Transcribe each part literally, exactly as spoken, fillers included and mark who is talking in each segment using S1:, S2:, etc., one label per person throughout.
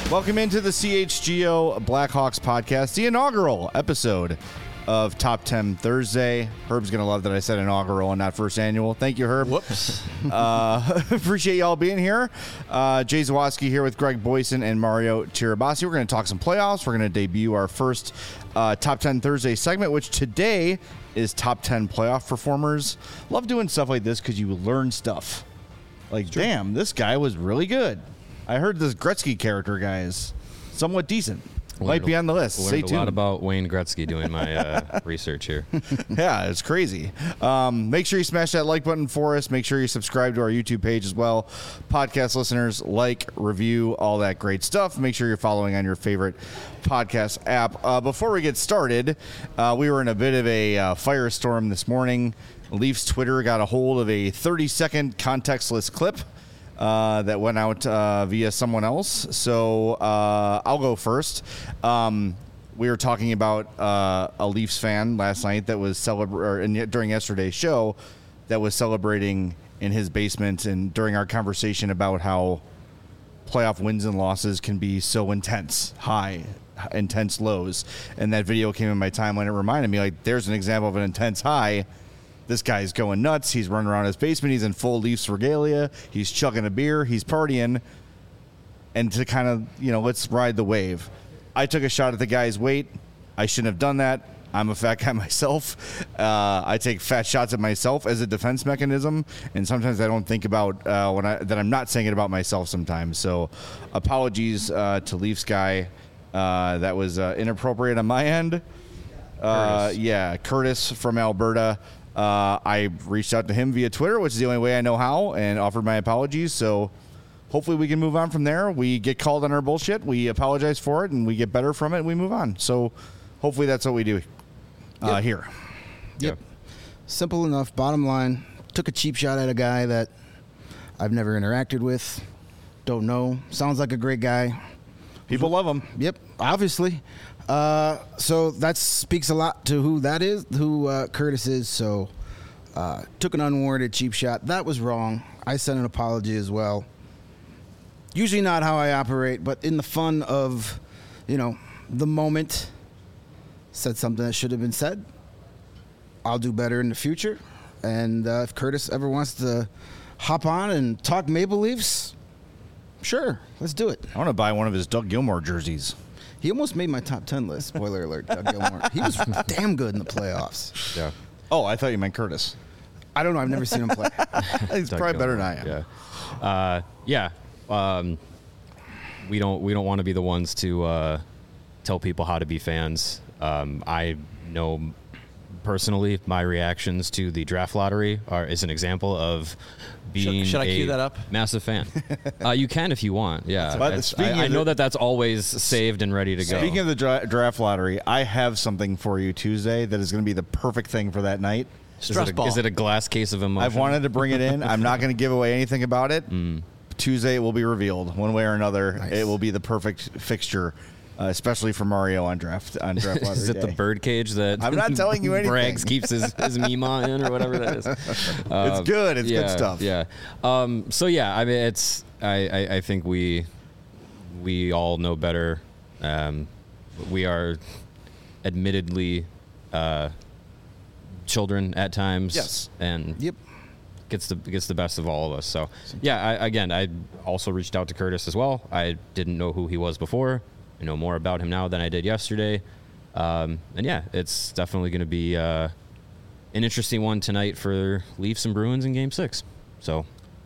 S1: Welcome into the C H G O Blackhawks podcast, the inaugural episode of Top ten Thursday. Herb's going to love that I said inaugural and not first annual. Thank you, Herb. Whoops. uh, appreciate y'all being here. Uh, Jay Zawaski here with Greg Boyson and Mario Tirabassi. We're going to talk some playoffs. We're going to debut our first uh, Top ten Thursday segment, which today is Top ten Playoff Performers. Love doing stuff like this because you learn stuff. Like, sure. Damn, this guy was really good. I heard this Gretzky character guy is somewhat decent. Learned Might be on the list.
S2: Learned
S1: Stay
S2: a
S1: tuned.
S2: lot about Wayne Gretzky doing my uh, research here.
S1: Yeah, it's crazy. Um, make sure you smash that like button for us. Make sure you subscribe to our YouTube page as well. Podcast listeners, like, review, all that great stuff. Make sure you're following on your favorite podcast app. Uh, before we get started, uh, we were in a bit of a uh, firestorm this morning. Leafs Twitter got a hold of a thirty-second contextless clip Uh, that went out uh, via someone else. So uh, I'll go first. Um, we were talking about uh, a Leafs fan last night that was celebrating during yesterday's show that was celebrating in his basement, and during our conversation about how playoff wins and losses can be so intense, high, intense lows. And that video came in my timeline. It reminded me, like, there's an example of an intense high. This guy's going nuts. He's running around his basement. He's in full Leafs regalia. He's chugging a beer. He's partying. And to kind of, you know, let's ride the wave. I took a shot at the guy's weight. I shouldn't have done that. I'm a fat guy myself. Uh, I take fat shots at myself as a defense mechanism. And sometimes I don't think about uh, when I that I'm not saying it about myself sometimes. So apologies uh, to Leafs guy. Uh, that was uh, inappropriate on my end. Uh, Curtis. Yeah, Curtis from Alberta. Uh, I reached out to him via Twitter, which is the only way I know how, and offered my apologies. So hopefully we can move on from there. We get called on our bullshit. We apologize for it, and we get better from it, and we move on. So hopefully that's what we do uh,
S3: yep.
S1: here.
S3: Yep. Simple enough. Bottom line, took a cheap shot at a guy that I've never interacted with, don't know. Sounds like a great guy.
S1: People love him.
S3: Yep, obviously. Uh, so that speaks a lot to who that is, who uh, Curtis is. So uh, took an unwarranted cheap shot. That was wrong. I sent an apology as well. Usually not how I operate, but in the fun of, you know, the moment, said something that should have been said. I'll do better in the future. And uh, if Curtis ever wants to hop on and talk Maple Leafs, sure, let's do it.
S1: I want to buy one of his Doug Gilmour jerseys.
S3: He almost made my top ten list. Spoiler alert, Doug Gilmour. He was damn good in the playoffs.
S2: Yeah.
S1: Oh, I thought you meant Curtis.
S3: I don't know. I've never seen him play.
S1: He's
S2: Doug
S1: probably better than
S2: Gilmour,
S1: I am.
S2: Yeah. Uh, yeah. Um, we don't we don't want to be the ones to uh, tell people how to be fans. Um, I know personally my reactions to the draft lottery are is an example of being
S4: should, should I
S2: a
S4: cue that up?
S2: massive fan. uh, you can if you want. Yeah.
S1: But
S2: It's-
S1: speaking
S2: I, I
S1: of
S2: know
S1: the-
S2: that that's always saved and ready to go.
S1: Speaking of the dra- draft lottery, I have something for you Tuesday that is going to be the perfect thing for that night.
S2: is,
S4: Stress
S2: it a,
S4: ball.
S2: is it a glass case of emotion?
S1: I've wanted to bring it in. I'm not going to give away anything about it.
S2: Mm.
S1: Tuesday it will be revealed one way or another.
S3: Nice.
S1: It will be the perfect fixture, uh, especially for Mario on draft on draft lottery
S2: Is it
S1: day.
S2: the bird cage that
S1: I'm not telling you anything.
S2: Braggs keeps his, his Mima in or whatever that is? Um,
S1: It's good. It's
S2: yeah,
S1: good stuff.
S2: Yeah. Um, so yeah, I mean, it's I, I, I think we we all know better. Um, we are admittedly uh, children at times.
S1: Yes.
S2: And
S3: Yep.
S2: gets the gets the best of all of us. So yeah, I, again, I also reached out to Curtis as well. I didn't know who he was before. I know more about him now than I did yesterday. Um, and yeah, it's definitely going to be uh, an interesting one tonight for Leafs and Bruins in Game Six. So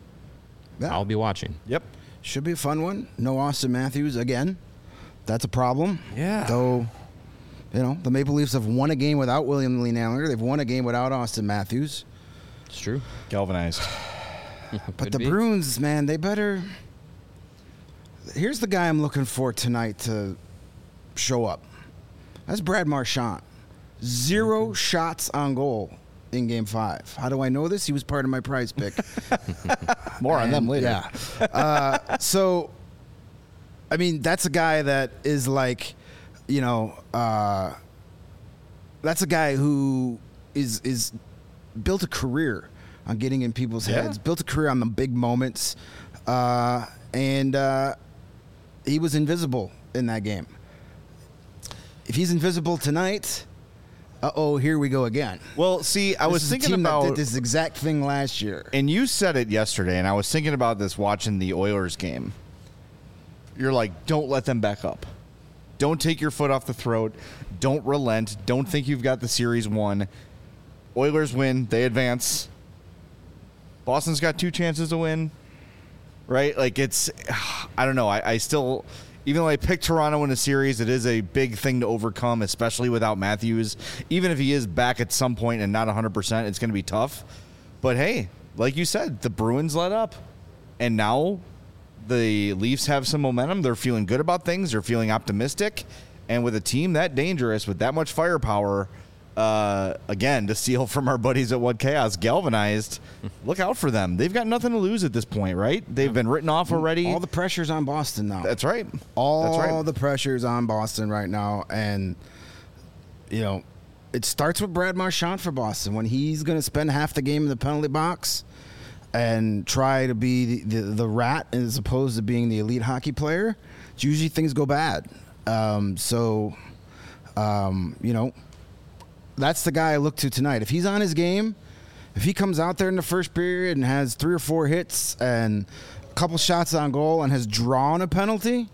S3: Yeah.
S2: I'll be watching.
S1: Yep.
S3: Should be a fun one. No Austin Matthews again. That's a problem.
S1: Yeah.
S3: Though, you know, the Maple Leafs have won a game without William Nylander. They've won a game without Austin Matthews.
S2: It's true.
S1: Galvanized.
S3: But
S2: Could
S3: the
S2: be.
S3: Bruins, man, they better. Here's the guy I'm looking for tonight to show up. That's Brad Marchand. Zero
S2: Mm-hmm.
S3: shots on goal in Game Five. How do I know this? He was part of my prize pick.
S1: More on them
S3: And,
S1: later.
S3: Yeah. Uh, so, I mean, that's a guy that is like, you know, uh, that's a guy who is is built a career on getting in people's
S1: Yeah.
S3: heads, built a career on the big moments, uh, and uh, he was invisible in that game. If he's invisible tonight, uh-oh, here we go again.
S1: Well, see, I
S3: This
S1: was
S3: is a
S1: thinking
S3: team
S1: about
S3: that did this exact thing last year.
S1: and you said it yesterday, and I was thinking about this watching the Oilers game. You're like, don't let them back up. Don't take your foot off the throat. Don't relent. Don't think you've got the series won. Oilers win. They advance. Boston's got two chances to win. Right? Like, it's, I don't know. I, I still, even though I picked Toronto in a series, it is a big thing to overcome, especially without Matthews. Even if he is back at some point and not one hundred percent, it's going to be tough. But hey, like you said, the Bruins let up. And now the Leafs have some momentum. They're feeling good about things. They're feeling optimistic. And with a team that dangerous, with that much firepower, uh, again, to steal from our buddies at What Chaos, galvanized, look out for them. They've got nothing to lose at this point, right? They've been written off already.
S3: All the pressure's on Boston now.
S1: That's right.
S3: All
S1: That's right.
S3: the pressure's on Boston right now. And, you know, it starts with Brad Marchand for Boston. When he's going to spend half the game in the penalty box and try to be the, the, the rat as opposed to being the elite hockey player, it's usually things go bad. Um, so, um, you know, that's the guy I look to tonight. If he's on his game, if he comes out there in the first period and has three or four hits and a couple shots on goal and has drawn a penalty,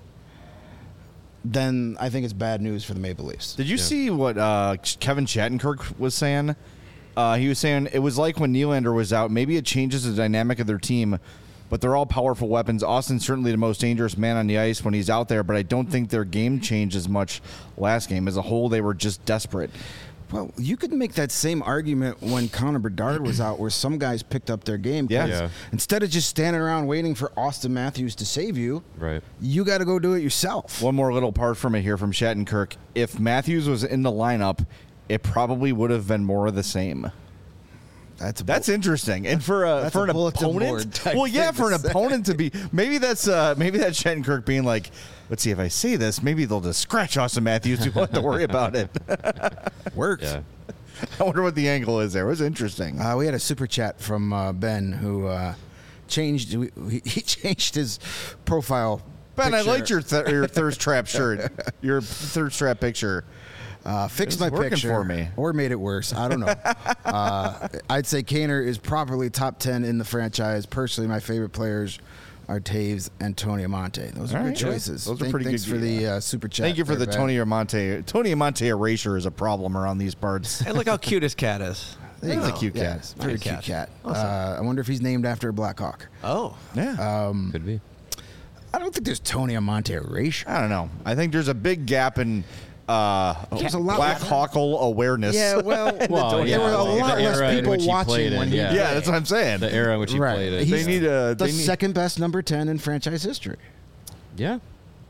S3: then I think it's bad news for the Maple Leafs.
S1: Did you see what uh, Kevin Shattenkirk was saying? Uh, he was saying it was like when Nylander was out. Maybe it changes the dynamic of their team, but they're all powerful weapons. Austin's certainly the most dangerous man on the ice when he's out there, but I don't think their game changed as much last game. As a whole, they were just desperate.
S3: Well, you could make that same argument when Connor Bedard was out, where some guys picked up their game.
S1: Yeah.
S3: 'cause
S2: Yeah.
S3: Instead of just standing around waiting for Austin Matthews to save you,
S2: Right.
S3: you got to go do it yourself.
S1: One more little part from it here from Shattenkirk. If Matthews was in the lineup, it probably would have been more of the same.
S3: That's a
S1: That's interesting, and for a
S3: That's
S1: for
S3: a
S1: an
S3: bulletin board
S1: opponent,
S3: type
S1: well, yeah,
S3: thing
S1: for
S3: to
S1: an
S3: say.
S1: opponent to be maybe that's uh, maybe that's Shattenkirk being like, let's see if I say this, maybe they'll just scratch Austin Matthews. We won't have to worry about it.
S3: worked.
S2: Yeah.
S1: I wonder what the angle is there. It was interesting.
S3: Uh, we had a super chat from uh, Ben who uh, changed. We, he changed his profile.
S1: Ben, I
S3: picture.
S1: liked your th- your thirst trap shirt, your thirst trap picture.
S3: Uh, fixed my
S1: It's working
S3: picture
S1: for me.
S3: or made it worse. I don't know. uh, I'd say Kaner is properly top ten in the franchise. Personally, my favorite players are Taves and Tony Amonte. Those are
S1: All
S3: good
S1: right.
S3: choices.
S1: Those are
S3: Thank-
S1: pretty
S3: thanks
S1: good,
S3: for the
S1: yeah.
S3: uh, super chat.
S1: Thank you for
S3: there,
S1: the
S3: Ben.
S1: Tony Amonte. Tony Amonte erasure is a problem around these parts.
S4: Hey, look how cute his cat is.
S3: There you
S1: He's a
S3: go.
S1: cute
S3: Yeah,
S1: cat.
S3: it's a Very
S4: Nice
S3: cute
S4: cat.
S3: cat.
S4: Awesome.
S3: Uh, I wonder if he's named after a Black Hawk.
S4: Oh,
S1: Yeah.
S2: Could be.
S3: I don't think there's Tony Amonte erasure.
S1: I don't know. I think there's a big gap in uh,
S3: There's a lot
S1: Black
S3: less-
S1: Hawkle awareness.
S3: Yeah, well,
S2: Well,
S3: there
S2: yeah,
S3: were a
S2: the
S3: lot
S2: era
S3: less
S2: in
S3: people
S2: which he
S3: watching
S2: played
S3: when
S2: it,
S3: he
S2: yeah.
S1: yeah, that's what I'm saying.
S2: The era in which he
S3: Right.
S2: played it.
S3: He's
S1: They need a.
S3: the
S1: They need,
S3: second best number ten in franchise history.
S2: Yeah.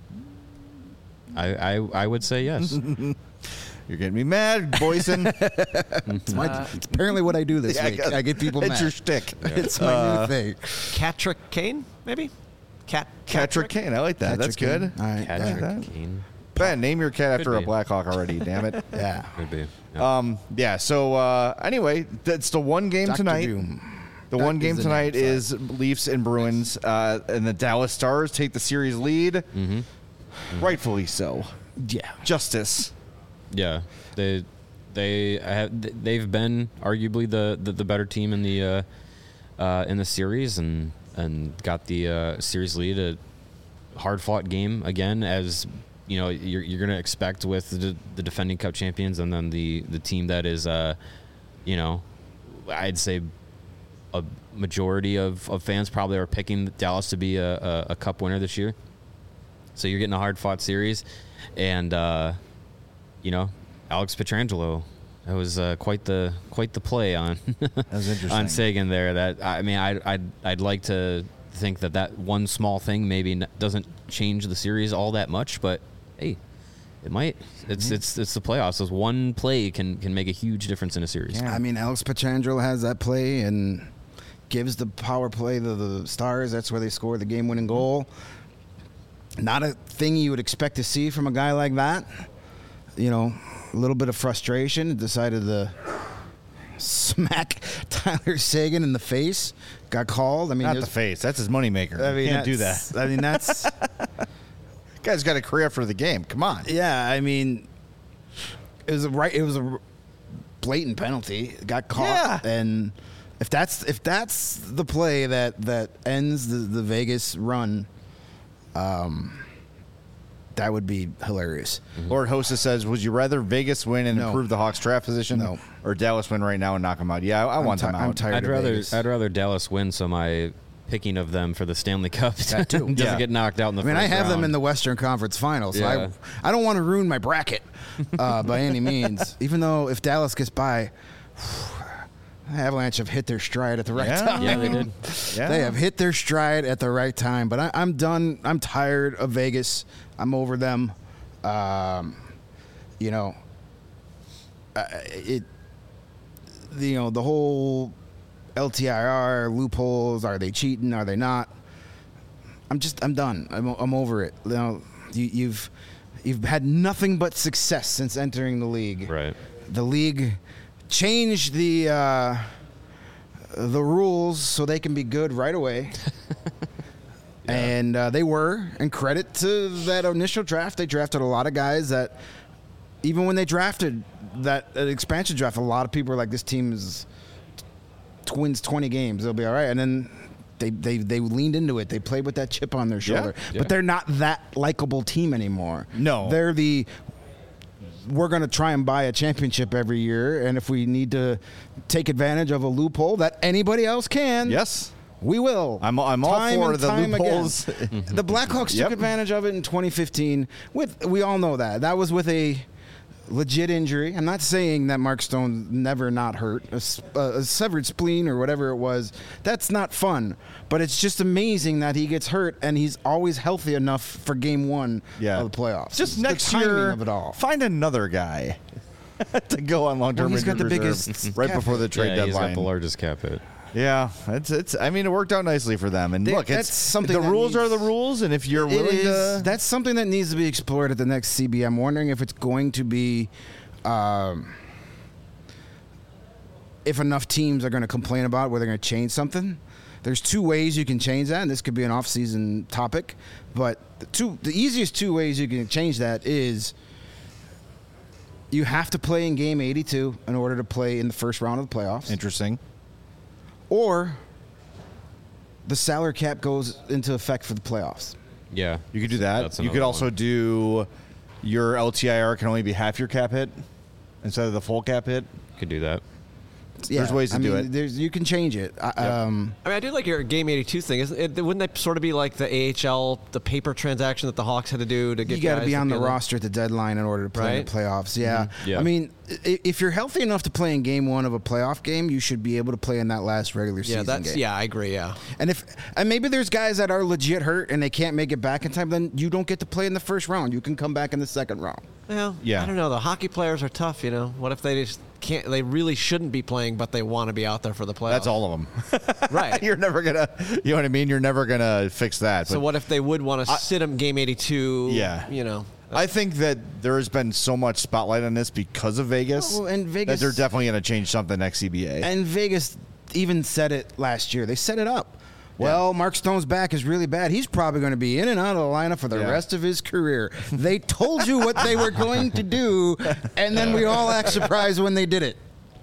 S2: I, I I would say yes.
S1: You're getting me mad, Boyson.
S3: It's, my, it's apparently what I do this
S1: Yeah, I
S3: week.
S1: guess-
S3: I get people
S1: it's
S3: mad.
S1: your shtick.
S3: It's my new thing.
S4: Catrick Kane, maybe? Cat
S1: Patrick Kane. I like that. That's
S3: Patrick
S1: good.
S3: Kane. All right.
S2: Patrick
S1: that.
S2: Kane.
S1: Ben, name your cat after
S2: Could
S1: a
S2: be.
S1: Blackhawk already. Damn it.
S3: Yeah.
S2: Could be. Yeah.
S1: Um. Yeah. So uh, anyway, that's the one game
S3: Doctor
S1: tonight.
S3: Doom.
S1: The
S3: That
S1: one
S3: is
S1: game
S3: the
S1: tonight
S3: name, sorry.
S1: is Leafs and Bruins, uh, and the Dallas Stars take the series lead.
S2: Mm-hmm.
S1: Rightfully so.
S3: Yeah.
S1: Justice.
S2: Yeah, they they have they've been arguably the, the, the better team in the uh, uh, in the series and and got the uh, series lead. A hard fought game again, as you know you're you're gonna expect with the, the defending Cup champions and then the the team that is uh, you know I'd say a majority of, of fans probably are picking Dallas to be a, a, a Cup winner this year. So you're getting a hard fought series, and. Uh, You know, Alex Pietrangelo. That was uh, quite the quite the play on
S1: That was interesting.
S2: on Sagan there. That I mean, I I'd, I'd like to think that that one small thing maybe n- doesn't change the series all that much, but hey, it might. It's
S1: Mm-hmm.
S2: it's it's the playoffs. So one play can can make a huge difference in a series.
S1: Yeah.
S3: I mean, Alex Pietrangelo has that play and gives the power play to the Stars. That's where they score the game-winning goal. Not a thing you would expect to see from a guy like that. You know, a little bit of frustration. Decided to smack Tyler Sagan in the face. Got called. I mean,
S1: Not the
S3: there's-
S1: face. That's his moneymaker.
S3: I mean,
S1: you can't do that.
S3: that's- I mean, that's
S1: Guy's got a career for the game. Come on.
S3: Yeah, I mean, it was a right. It was a blatant penalty. Got caught,
S1: Yeah.
S3: and if that's if that's the play that that ends the, the Vegas run, um, that would be hilarious.
S1: Lord Hostess says, would you rather Vegas win and
S3: No.
S1: improve the Hawks draft position,
S3: No.
S1: or Dallas win right now and knock them out? Yeah, I, I
S3: I'm
S1: want
S3: ti-
S1: them out.
S3: I'm tired
S2: I'd
S3: of
S2: rather
S3: Vegas.
S2: I'd rather Dallas win, so my picking of them for the Stanley Cup
S3: That too.
S2: doesn't
S1: Yeah.
S2: get knocked out in the
S3: I mean,
S2: first
S3: I have them
S2: round.
S3: in the Western Conference Finals, so
S2: Yeah.
S3: I, I don't want to ruin my bracket uh, by any means. Even though if Dallas gets by, Avalanche have hit their stride at the right
S1: Yeah.
S3: time.
S2: Yeah, they did.
S1: Yeah.
S3: They have hit their stride at the right time. But I, I'm done. I'm tired of Vegas. I'm over them. Um, you know, uh, it. You know, the whole L T I R loopholes. Are they cheating? Are they not? I'm just. I'm done. I'm. I'm over it. You know, you, you've you've had nothing but success since entering the league.
S2: Right.
S3: The league changed the uh, the rules so they can be good right away. And uh, they were, and credit to that initial draft, they drafted a lot of guys that, even when they drafted that uh, expansion draft, a lot of people were like, this team is wins twenty games, they'll be all right. And then they, they, they leaned into it. They played with that chip on their shoulder.
S2: Yeah.
S3: But they're not that likable team anymore.
S1: No.
S3: They're the, we're going to try and buy a championship every year, and if we need to take advantage of a loophole that anybody else can,
S1: Yes.
S3: we will.
S1: I'm- I'm all
S3: Time
S1: for
S3: and
S1: the
S3: time
S1: loopholes.
S3: again. The Blackhawks
S1: Yep.
S3: took advantage of it in twenty fifteen. With we all know that that was with a legit injury. I'm not saying that Mark Stone never not hurt a, s- a severed spleen or whatever it was. That's not fun. But it's just amazing that he gets hurt and he's always healthy enough for Game One
S1: Yeah.
S3: of the playoffs.
S1: Just
S3: The
S1: next
S3: timing
S1: year,
S3: of it all.
S1: find another guy to go on long-term
S3: Well, he's got the
S1: injured
S3: biggest
S1: reserve right
S3: cap
S1: before the
S3: hit.
S1: trade
S2: Yeah, he's got
S1: deadline.
S2: the largest cap hit.
S1: Yeah, it's it's. I mean, it worked out nicely for them. And
S3: They-
S1: look, it's
S3: that's something
S1: the
S3: that
S1: rules are the
S3: needs-
S1: rules, and if you're
S3: It
S1: willing
S3: is.
S1: to,
S3: That's something that needs to be explored at the next C B. I'm wondering if it's going to be, um, if enough teams are going to complain about whether they're going to change something. There's two ways you can change that, and this could be an off-season topic. But the two, the easiest two ways you can change that is you have to play in Game eighty-two in order to play in the first round of the playoffs,
S1: interesting.
S3: or the salary cap goes into effect for the playoffs.
S2: Yeah.
S1: You could do that.
S2: That's
S1: You could
S2: another
S1: also
S2: one.
S1: do your L T I R can only be half your cap hit instead of the full cap hit.
S2: Could do that.
S1: There's ways to
S3: I
S1: do
S3: mean,
S1: it.
S3: There's you can change it. I, um,
S4: I mean, I do like your Game eighty-two thing. Isn't it, wouldn't that sort of be like the A H L, the paper transaction that the Hawks had to do to get
S3: you got to
S4: guys
S3: be on the
S4: together?
S3: roster at the deadline in order to play in
S4: Right?
S3: the playoffs. Yeah.
S2: Yeah.
S3: I mean, i- if you're healthy enough to play in game one of a playoff game, you should be able to play in that last regular
S4: Yeah,
S3: season
S4: that's
S3: game.
S4: yeah, I agree. Yeah,
S3: And if and maybe there's guys that are legit hurt and they can't make it back in time, then you don't get to play in the first round. You can come back in the second round.
S4: well,
S1: Yeah.
S4: I don't know. The hockey players are tough. You know, what if they just can't? They really shouldn't be playing, but they want to be out there for the playoffs.
S1: That's all of them.
S4: right.
S1: You're never gonna. You know what I mean? You're never gonna fix that.
S4: So
S1: But
S4: what if they would want to sit them Game eighty-two?
S1: Yeah.
S4: you know.
S1: I think that there has been so much spotlight on this because of Vegas,
S3: Well, and
S1: that
S3: Vegas-
S1: they're definitely going to change something next C B A.
S3: And Vegas even said it last year. They set it up. Well, Mark Stone's back is really bad. He's probably going to be in and out of the lineup for the
S1: Yeah.
S3: rest of his career. They told you what they were going to do, and then we all act surprised when they did it.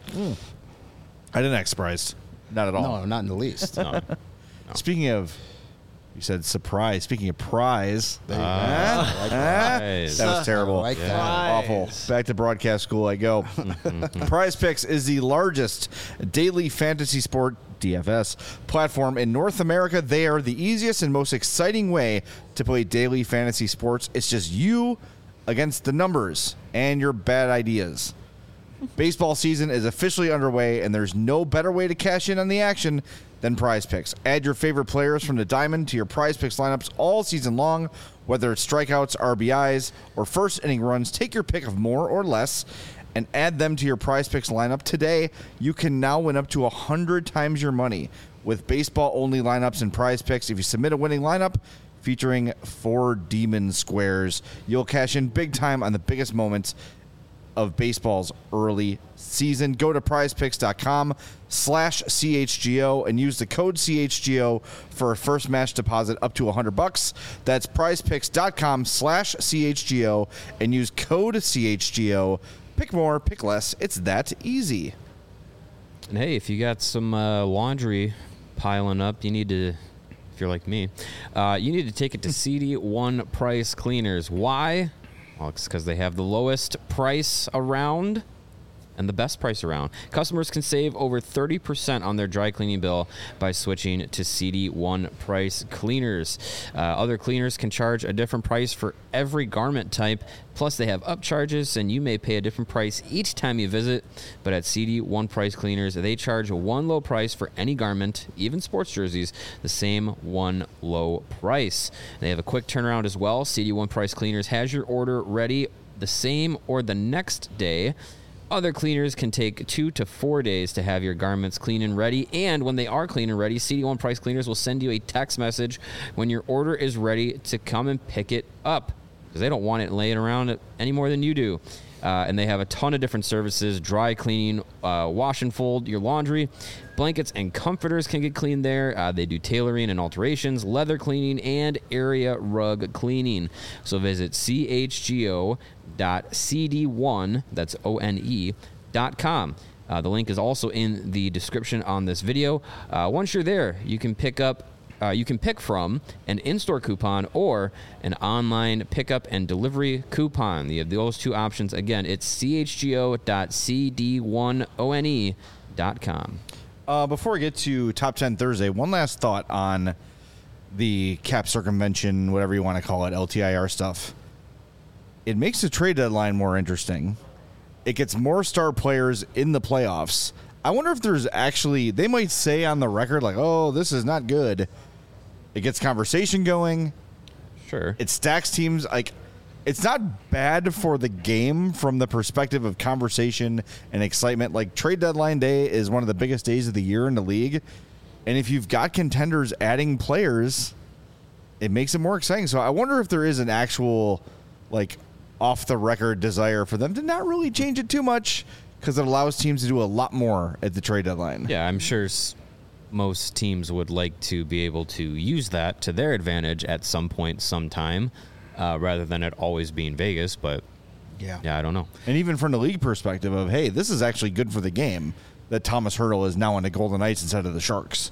S1: I didn't act surprised. Not at all.
S3: No, not in the least.
S2: No.
S1: Speaking of, you said surprise. Speaking of prize,
S3: There you go.
S1: Ah, ah,
S2: Prize.
S1: that was terrible.
S3: I like that.
S1: Awful. Back to broadcast school I go. Prize Picks is the largest daily fantasy sport D F S platform in North America. They are the easiest and most exciting way to play daily fantasy sports. It's just you against the numbers and your bad ideas. Baseball season is officially underway, and there's no better way to cash in on the action than Prize Picks. Add your favorite players from the Diamond to your Prize Picks lineups all season long, whether it's strikeouts, R B Is, or first inning runs. Take your pick of more or less and add them to your Prize Picks lineup today. You can now win up to one hundred times your money with baseball-only lineups and Prize Picks. If you submit a winning lineup featuring four demon squares, you'll cash in big time on the biggest moments of baseball's early season. Go to prizepicks.com slash CHGO and use the code C H G O for a first match deposit up to one hundred bucks. That's prizepicks.com slash CHGO and use code C H G O. Pick more, pick less. It's that easy.
S2: And hey, if you got some uh, laundry piling up, you need to, if you're like me, uh, you need to take it to C D one Price Cleaners. Why? Well, it's because they have the lowest price around and the best price around. Customers can save over thirty percent on their dry cleaning bill by switching to C D one Price Cleaners. Uh, other cleaners can charge a different price for every garment type. Plus, they have upcharges, and you may pay a different price each time you visit. But at C D one Price Cleaners, they charge one low price for any garment, even sports jerseys, the same one low price. They have a quick turnaround as well. C D one Price Cleaners has your order ready the same or the next day. Other cleaners can take two to four days to have your garments clean and ready. And when they are clean and ready, C D one Price Cleaners will send you a text message when your order is ready to come and pick it up, because they don't want it laying around any more than you do. Uh, and they have a ton of different services: dry cleaning, uh, wash and fold your laundry, blankets and comforters can get cleaned there. Uh, they do tailoring and alterations, leather cleaning, and area rug cleaning. So visit C H G O dot C D one, that's O N E, dot com. Uh, the link is also in the description on this video. Uh, once you're there, you can pick up Uh, you can pick from an in-store coupon or an online pickup and delivery coupon. You have those two options. Again, it's C H G O dot C D one O N E dot com.
S1: Uh, before we get to Top ten Thursday, one last thought on the cap circumvention, whatever you want to call it, L T I R stuff. It makes the trade deadline more interesting. It gets more star players in the playoffs. I wonder if there's actually, they might say on the record, like, oh, this is not good. It gets conversation going.
S2: Sure.
S1: It stacks teams. Like, it's not bad for the game from the perspective of conversation and excitement. Like, trade deadline day is one of the biggest days of the year in the league. And if you've got contenders adding players, it makes it more exciting. So I wonder if there is an actual, like, off-the-record desire for them to not really change it too much, because it allows teams to do a lot more at the trade deadline.
S2: Yeah, I'm sure s- most teams would like to be able to use that to their advantage at some point, sometime, uh, rather than it always being Vegas. But
S3: Yeah.
S2: yeah, I don't know.
S1: And even from the league perspective of, hey, this is actually good for the game that Thomas Hertel is now on the Golden Knights instead of the Sharks.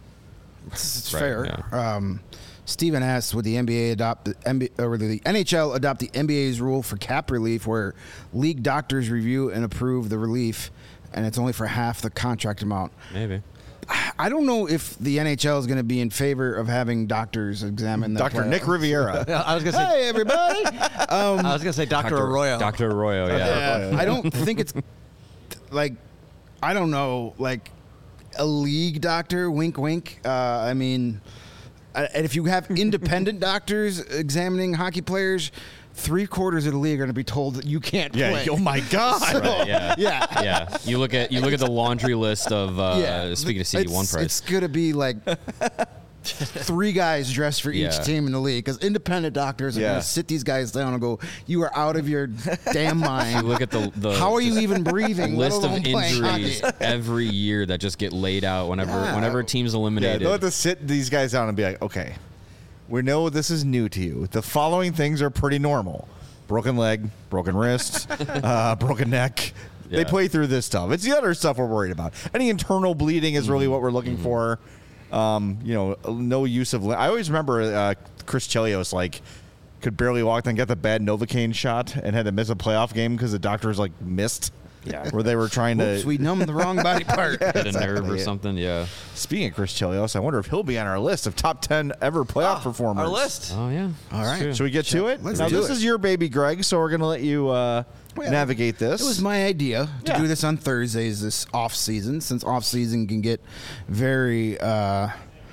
S3: It's, it's
S2: Right,
S3: fair. Um, Steven asks, would the N B A adopt the N B A, or the N H L adopt the N B A's rule for cap relief, where league doctors review and approve the relief, and it's only for half the contract amount?
S2: Maybe.
S3: I don't know if the N H L is going to be in favor of having doctors examine the
S1: Doctor Nick Riviera.
S4: I was gonna say.
S3: Hey, everybody. um,
S4: I was gonna say Doctor Arroyo.
S2: Doctor Arroyo, yeah.
S3: I don't think it's like, I don't know, like a league doctor, wink, wink. Uh, I mean, uh, and if you have independent doctors examining hockey players, three quarters of the league are going to be told that you can't
S1: Yeah.
S3: play.
S1: Oh my God.
S2: Right, yeah.
S3: Yeah.
S2: Yeah. You look at you look at the laundry list of uh, speaking of C D one
S3: It's-
S2: price.
S3: It's going to be like three guys dressed for each
S2: Yeah.
S3: team in the league, because independent doctors are
S1: Yeah.
S3: going to sit these guys down and go, "You are out of your damn mind.
S2: You look at the, the
S3: How are you
S2: just
S3: even breathing? let
S2: list of
S3: alone playing
S2: injuries
S3: hockey?"
S2: every year that just get laid out whenever
S3: Yeah.
S2: whenever a team's
S1: Yeah,
S2: eliminated.
S1: they'll have to sit these guys down and be like, okay, we know this is new to you. The following things are pretty normal. Broken leg, broken wrist, uh, broken neck. They
S2: Yeah.
S1: play through this stuff. It's the other stuff we're worried about. Any internal bleeding is really what we're looking for. Um, you know, no use of. I always remember uh, Chris Chelios, like, could barely walk, then get the bad Novocaine shot and had to miss a playoff game because the doctors, like, missed.
S2: Yeah.
S1: Where they were trying
S3: Oops,
S1: to.
S3: we numbed the wrong body part.
S2: Hit a
S1: exactly
S2: nerve or
S1: it.
S2: something. Yeah.
S1: Speaking of Chris Chelios, I wonder if he'll be on our list of top ten ever playoff performers.
S4: Our list.
S2: Oh yeah.
S3: All
S2: That's
S3: right.
S2: true.
S1: Should we get to it?
S3: Let's
S1: now,
S3: do
S1: this
S3: it.
S1: is your baby, Greg, so we're going to let you uh,
S3: Well,
S1: navigate this.
S3: It was my idea to
S1: Yeah.
S3: do this on Thursdays this off season, since off season can get very uh,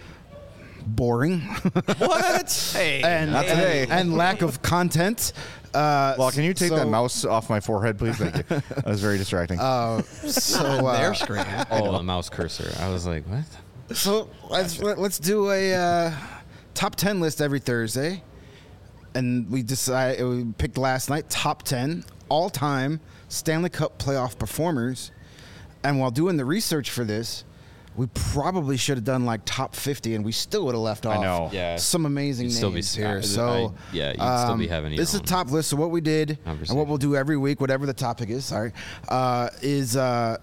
S3: boring
S1: What?
S4: Hey.
S3: and,
S1: Not
S3: and
S1: today.
S3: and lack of content. Uh,
S1: Well, can you take
S3: so-
S1: that mouse off my forehead, please? Thank you. That was very distracting.
S3: Uh, so uh,
S4: Their screen.
S2: Oh, the mouse cursor. I was like, what?
S3: So let's let, let's do a uh, top ten list every Thursday, and we decide we picked last night top ten all time Stanley Cup playoff performers. And while doing the research for this, we probably should have done like top fifty, and we still would have left off
S1: I know.
S2: Yeah.
S3: some amazing
S2: You'd
S3: names
S2: still be-
S3: here.
S2: I-
S3: so
S2: I- yeah, you'd still be having your
S3: this is
S2: own
S3: a top list. So what we did and
S2: conversation.
S3: what we'll do every week, whatever the topic is, sorry, uh, is uh,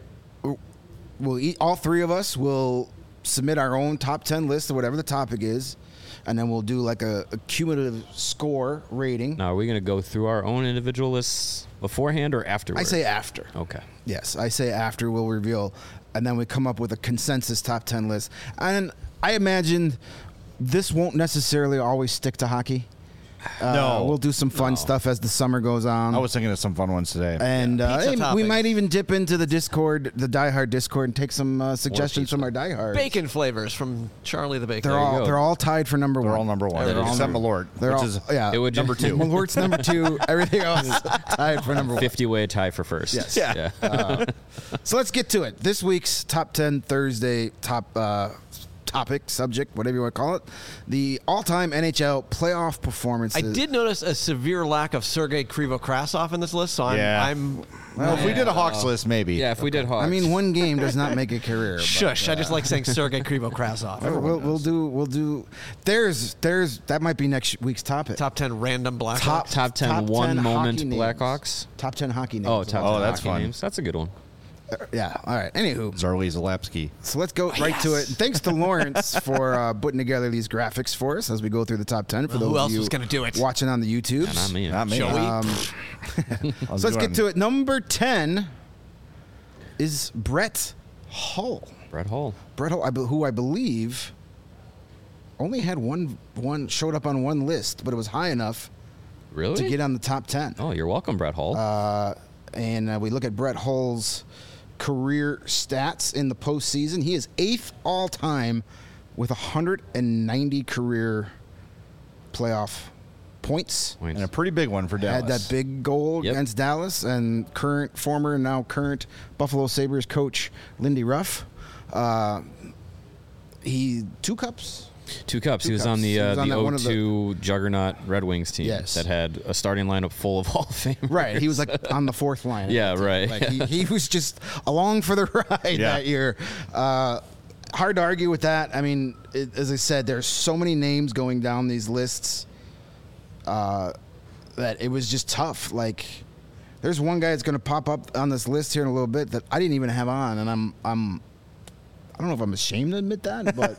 S3: we'll eat, all three of us will submit our own top ten list or whatever the topic is, and then we'll do like a, a cumulative score rating.
S2: Now, are we going to go through our own individual lists beforehand or afterward?
S3: I say after.
S2: Okay.
S3: Yes, I say after we'll reveal, and then we come up with a consensus top ten list. And I imagine this won't necessarily always stick to hockey. Uh,
S1: No.
S3: we'll do some fun
S2: No.
S3: stuff as the summer goes on.
S1: I was thinking of some fun ones today.
S3: and uh,
S4: Pizza
S3: hey, we
S4: toppings.
S3: might even dip into the Discord, the Die Hard Discord, and take some uh, suggestions
S2: pizza.
S3: from our Die Hard.
S4: Bacon flavors from Charlie the Baker.
S3: They're
S2: you
S3: all
S2: go.
S3: they're all tied for number
S1: They're
S3: one.
S1: all number one.
S3: They're all
S1: Except
S3: number-
S1: Malort,
S3: They're
S1: which
S3: all
S1: is
S3: yeah.
S2: It would
S1: number two.
S3: Malort's number two. Everything else tied for number one.
S2: fifty-way tie for first.
S3: Yes.
S1: Yeah.
S2: yeah.
S3: So let's get to it. This week's top ten Thursday top uh, topic, subject, whatever you want to call it, the all-time N H L playoff performances.
S4: I did notice a severe lack of Sergei Krivo-Krasov in this list, so I'm,
S1: Yeah.
S4: I'm
S1: Well, if we did a Hawks list, maybe.
S2: Yeah, if we did Hawks.
S3: I mean, one game does not make a career. but,
S4: shush.
S3: uh,
S4: I just like saying Sergei Krivo-Krasov.
S3: we'll, we'll, we'll do. We'll do. There's. There's. That might be next week's topic.
S4: Top ten random Blackhawks.
S3: Top-
S2: top ten
S3: top
S2: one
S3: ten
S2: moment
S3: hockey names.
S2: Blackhawks.
S3: Top ten hockey names.
S2: Oh, top
S1: Oh,
S2: ten
S1: that's
S2: hockey
S1: fun.
S2: names. That's a good one.
S3: Uh, yeah. All right. Anywho,
S1: Zarley Zalapsky.
S3: so let's go right to it. Thanks to Lawrence for uh, putting together these graphics for us as we go through the top ten. For
S4: Well,
S3: those
S4: who
S3: of
S4: else
S3: you
S4: was gonna do it?
S3: watching on the YouTubes.
S2: Not me.
S1: Not me.
S4: Shall we?
S3: Um,
S1: I'll
S3: so let's
S1: do
S3: get
S1: it.
S3: to it. Number ten is Brett Hull.
S2: Brett Hull.
S3: Brett Hull, I be- who I believe only had one one showed up on one list, but it was high enough
S2: Really?
S3: to get on the top ten.
S2: Oh, you're welcome, Brett Hull.
S3: Uh, and uh, we look at Brett Hull's career stats in the postseason. He is eighth all time with one hundred ninety career playoff points.
S2: Points.
S1: And a pretty big one for Dallas.
S3: Had that big goal
S2: Yep.
S3: against Dallas, and current, former, and now current Buffalo Sabres coach Lindy Ruff. Uh, he two cups.
S2: Two cups.
S3: Two
S2: he was
S3: cups.
S2: on the
S3: He
S2: uh,
S3: was on
S2: the
S3: that one of the-
S2: oh two Juggernaut Red Wings team
S3: Yes.
S2: that had a starting lineup full of Hall of Famers.
S3: Right, he was like on the fourth line.
S2: Yeah, right.
S3: Like he, he was just along for the ride
S1: Yeah.
S3: that year. Uh, hard to argue with that. I mean, it, as I said, there's so many names going down these lists uh, that it was just tough. Like, there's one guy that's going to pop up on this list here in a little bit that I didn't even have on, and I'm I'm. I don't know if I'm ashamed to admit that, but,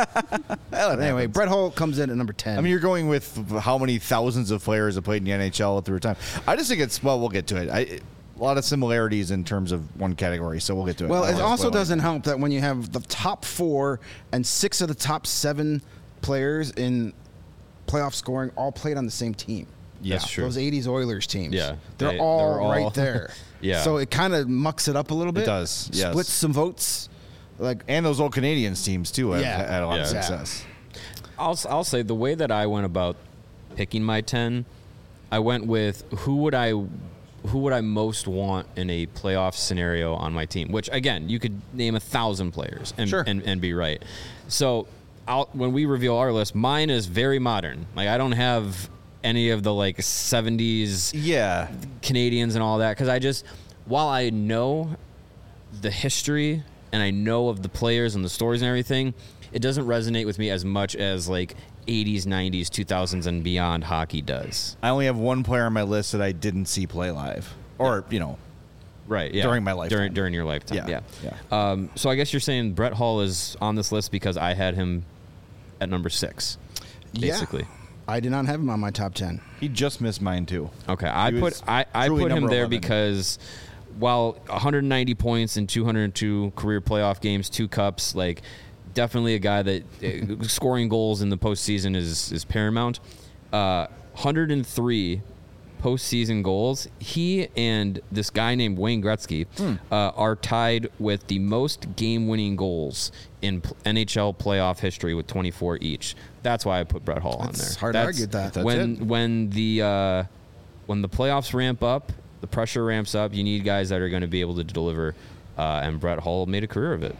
S3: but anyway, Brett Hull comes in at number ten.
S1: I mean, you're going with how many thousands of players have played in the N H L through time. I just think it's, well, we'll get to it. I, a lot of similarities in terms of one category, so we'll get to it.
S3: Well,
S1: I
S3: it
S1: don't
S3: also
S1: wanna spoil
S3: doesn't help that when you have the top four and six of the top seven players in playoff scoring all played on the same team.
S2: Yeah, that's true.
S3: Those eighties Oilers teams.
S2: Yeah,
S3: They're,
S2: they-
S3: all,
S2: they're all-
S3: right there.
S2: Yeah.
S3: So it kind of mucks it up a little bit.
S1: does, yes.
S3: Splits some votes. Like,
S1: And those old Canadians teams, too, have
S3: Yeah.
S1: had a lot of
S2: Yeah.
S1: success.
S2: I'll I'll say the way that I went about picking my ten, I went with who would I who would I most want in a playoff scenario on my team. Which again, you could name a thousand players and
S3: Sure.
S2: and, and be right. So I'll, when we reveal our list, mine is very modern. Like I don't have any of the like seventies
S1: Yeah.
S2: Canadians and all that because I just while I know the history and I know of the players and the stories and everything, it doesn't resonate with me as much as like eighties, nineties, two thousands and beyond hockey does.
S1: I only have one player on my list that I didn't see play live. Or, you know,
S2: Right. Yeah.
S1: During my lifetime.
S2: During during your lifetime.
S1: Yeah,
S2: Yeah. Um, so I guess you're saying Brett Hull is on this list because I had him at number six, basically.
S3: yeah, I did not have him on my top ten.
S1: he just missed mine, too.
S2: Okay, I
S1: He
S2: put
S1: was
S2: I, I
S1: truly
S2: put him
S1: number
S2: there
S1: eleven.
S2: because while one hundred ninety points and two hundred two career playoff games, two cups, like definitely a guy that uh, scoring goals in the postseason is is paramount. Uh, one hundred three postseason goals. He and this guy named Wayne Gretzky
S1: Hmm.
S2: uh, are tied with the most game-winning goals in p- N H L playoff history with twenty-four each. That's why I put Brett Hull on
S3: That's
S2: there.
S3: hard to argue with that.
S1: That's
S2: when
S1: it.
S2: when the uh, when the playoffs ramp up, the pressure ramps up. You need guys that are going to be able to deliver, uh, and Brett Hull made a career of it.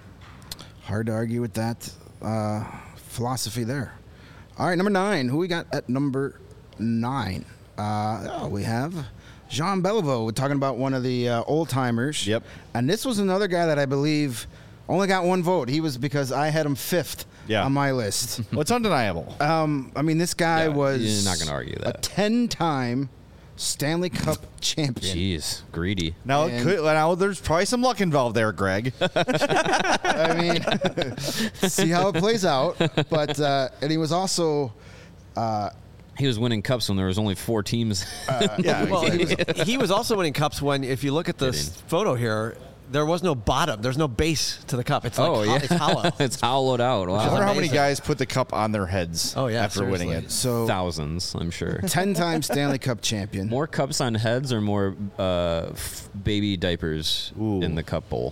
S3: Hard to argue with that uh, philosophy there. All right, number nine. Who we got at number nine? Uh, oh, we have Jean Beliveau. We're talking about one of the uh, old timers.
S1: Yep.
S3: And this was another guy that I believe only got one vote. He was because I had him fifth
S1: Yeah.
S3: on my list.
S1: Well, it's undeniable.
S3: um, I mean, this guy
S2: Yeah,
S3: was
S2: you're not gonna argue
S3: a
S2: that.
S3: ten-time Stanley Cup champion.
S2: Jeez, greedy.
S1: Now, it
S3: And-
S1: could, now there's probably some luck involved there, Greg.
S3: I mean, see how it plays out. But uh, and he was also. Uh,
S2: He was winning cups when there was only four teams.
S1: yeah,
S4: Well, he
S1: exactly.
S4: was, he was also winning cups when, if you look at this
S2: Kidding.
S4: photo here, there was no bottom. There's no base to the cup. It's like
S2: oh
S4: ho-
S2: yeah,
S4: it's hollow.
S2: it's hollowed out.
S1: I
S2: Wow,
S1: wonder how many
S4: amazing.
S1: guys put the cup on their heads
S4: Oh, yeah,
S1: after winning
S4: seriously.
S1: it.
S3: so
S2: thousands, I'm sure.
S3: ten-time Stanley Cup champion.
S2: More cups on heads or more uh, f- baby diapers
S1: Ooh.
S2: in the cup bowl?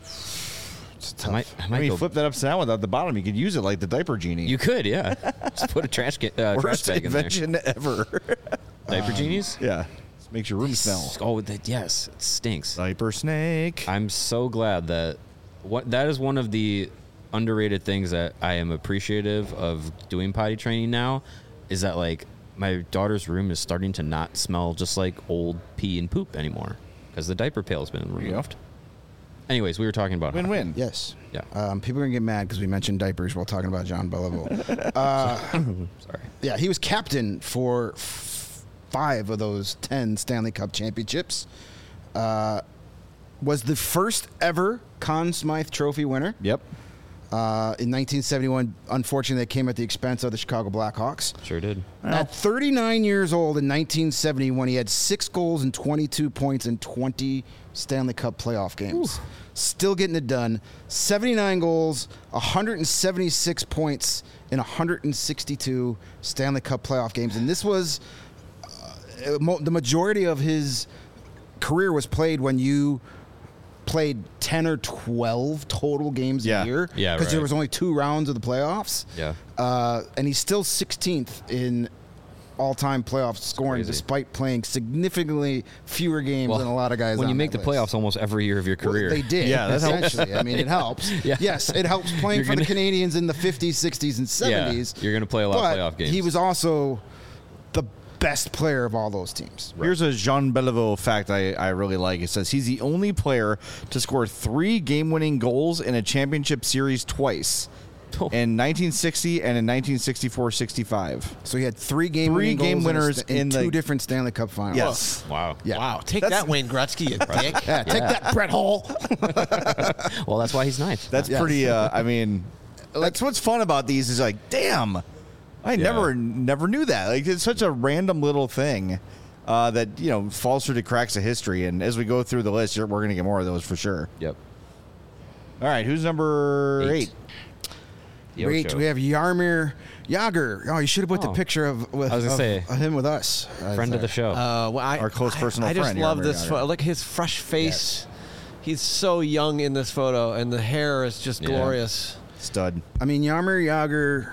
S3: It's
S2: I
S3: tough.
S2: might, I
S1: I
S2: might
S1: mean,
S2: go.
S1: flip that upside down without the bottom. You could use it like the diaper genie.
S2: You could, yeah. Just put a trash, ca- uh, trash
S1: Worst
S2: bag in there.
S1: invention ever.
S2: Diaper genies?
S1: yeah, this makes your room smell.
S2: Oh, that, yes, it stinks.
S1: Diaper snake.
S2: I'm so glad that what that is one of the underrated things that I am appreciative of doing potty training now is that like my daughter's room is starting to not smell just like old pee and poop anymore because the diaper pail's been
S1: you go.
S2: removed. Anyways, we were talking about hockey.
S1: Win-win.
S3: Yes.
S2: Yeah.
S3: Um, people are going to get mad because we mentioned diapers while talking about John Beliveau. uh,
S2: Sorry.
S3: yeah, he was captain for f- five of those ten Stanley Cup championships. Uh, was the first ever Conn Smythe Trophy winner.
S1: Yep.
S3: Uh, in nineteen seventy-one, unfortunately, that came at the expense of the Chicago Blackhawks.
S2: Sure did.
S3: At thirty-nine years old in nineteen seventy, when he had six goals and twenty-two points in twenty Stanley Cup playoff games. Still getting it done. seventy-nine goals, one hundred seventy-six points in one hundred sixty-two Stanley Cup playoff games. And this was uh, mo- the majority of his career was played when you played ten or twelve total games
S1: Yeah.
S3: a year.
S2: Yeah,
S3: Because there
S2: right.
S3: was only two rounds of the playoffs.
S2: Yeah.
S3: Uh, and he's still sixteenth in all-time playoff scoring,
S2: crazy.
S3: despite playing significantly fewer games than a lot of guys.
S2: When you
S3: on
S2: make
S3: that
S2: the
S3: list.
S2: playoffs almost every year of your
S3: Well,
S2: career.
S3: they did.
S1: Yeah, that helps.
S3: essentially. I mean, it helps.
S2: Yeah.
S3: Yes, it helps playing
S2: You're
S3: for the
S2: gonna-
S3: Canadians in the fifties, sixties, and seventies.
S2: you're gonna play a lot of
S3: but
S2: playoff games.
S3: He was also the best player of all those teams.
S1: Here's a Jean Beliveau fact I, I really like. It says he's the only player to score three game-winning goals in a championship series twice.
S2: Oh.
S1: In nineteen sixty and in nineteen sixty-four sixty-five.
S3: So he had three game
S1: Three
S3: winning
S1: game
S3: goals
S1: winners
S3: in, a st- in
S1: in
S3: two
S1: the-
S3: different Stanley Cup finals.
S1: Yes.
S2: Wow.
S3: Yeah.
S4: Wow, take
S1: That's-
S4: that, Wayne Gretzky, you dick.
S3: Yeah, take
S2: Yeah.
S3: that, Brett Hull.
S2: Well, that's why he's ninth.
S1: That's
S3: Yes.
S1: pretty. Uh, I mean, that's what's fun about these is like, damn, I never never knew that. Like, it's such a random little thing uh, that you know falls through the cracks of history. And as we go through the list, you're, we're going to get more of those for sure.
S2: Yep.
S1: All right, who's number eight?
S2: Eight. The
S3: Great.
S2: Ocho.
S3: We have Yarmir Yager. Oh, you should have put the
S2: Oh.
S3: picture of, with,
S2: I was gonna
S3: of,
S2: say,
S3: of him with us.
S2: Friend of the show.
S4: Uh, well, I,
S1: Our close
S4: I-
S1: personal
S4: I, just
S1: friend,
S4: love
S1: Yarmir
S4: this
S1: Yager.
S4: photo. Look at his fresh face. He's so young in this photo, and the hair is just
S2: Yeah.
S4: glorious.
S1: Stud.
S3: I mean, Yarmir Yager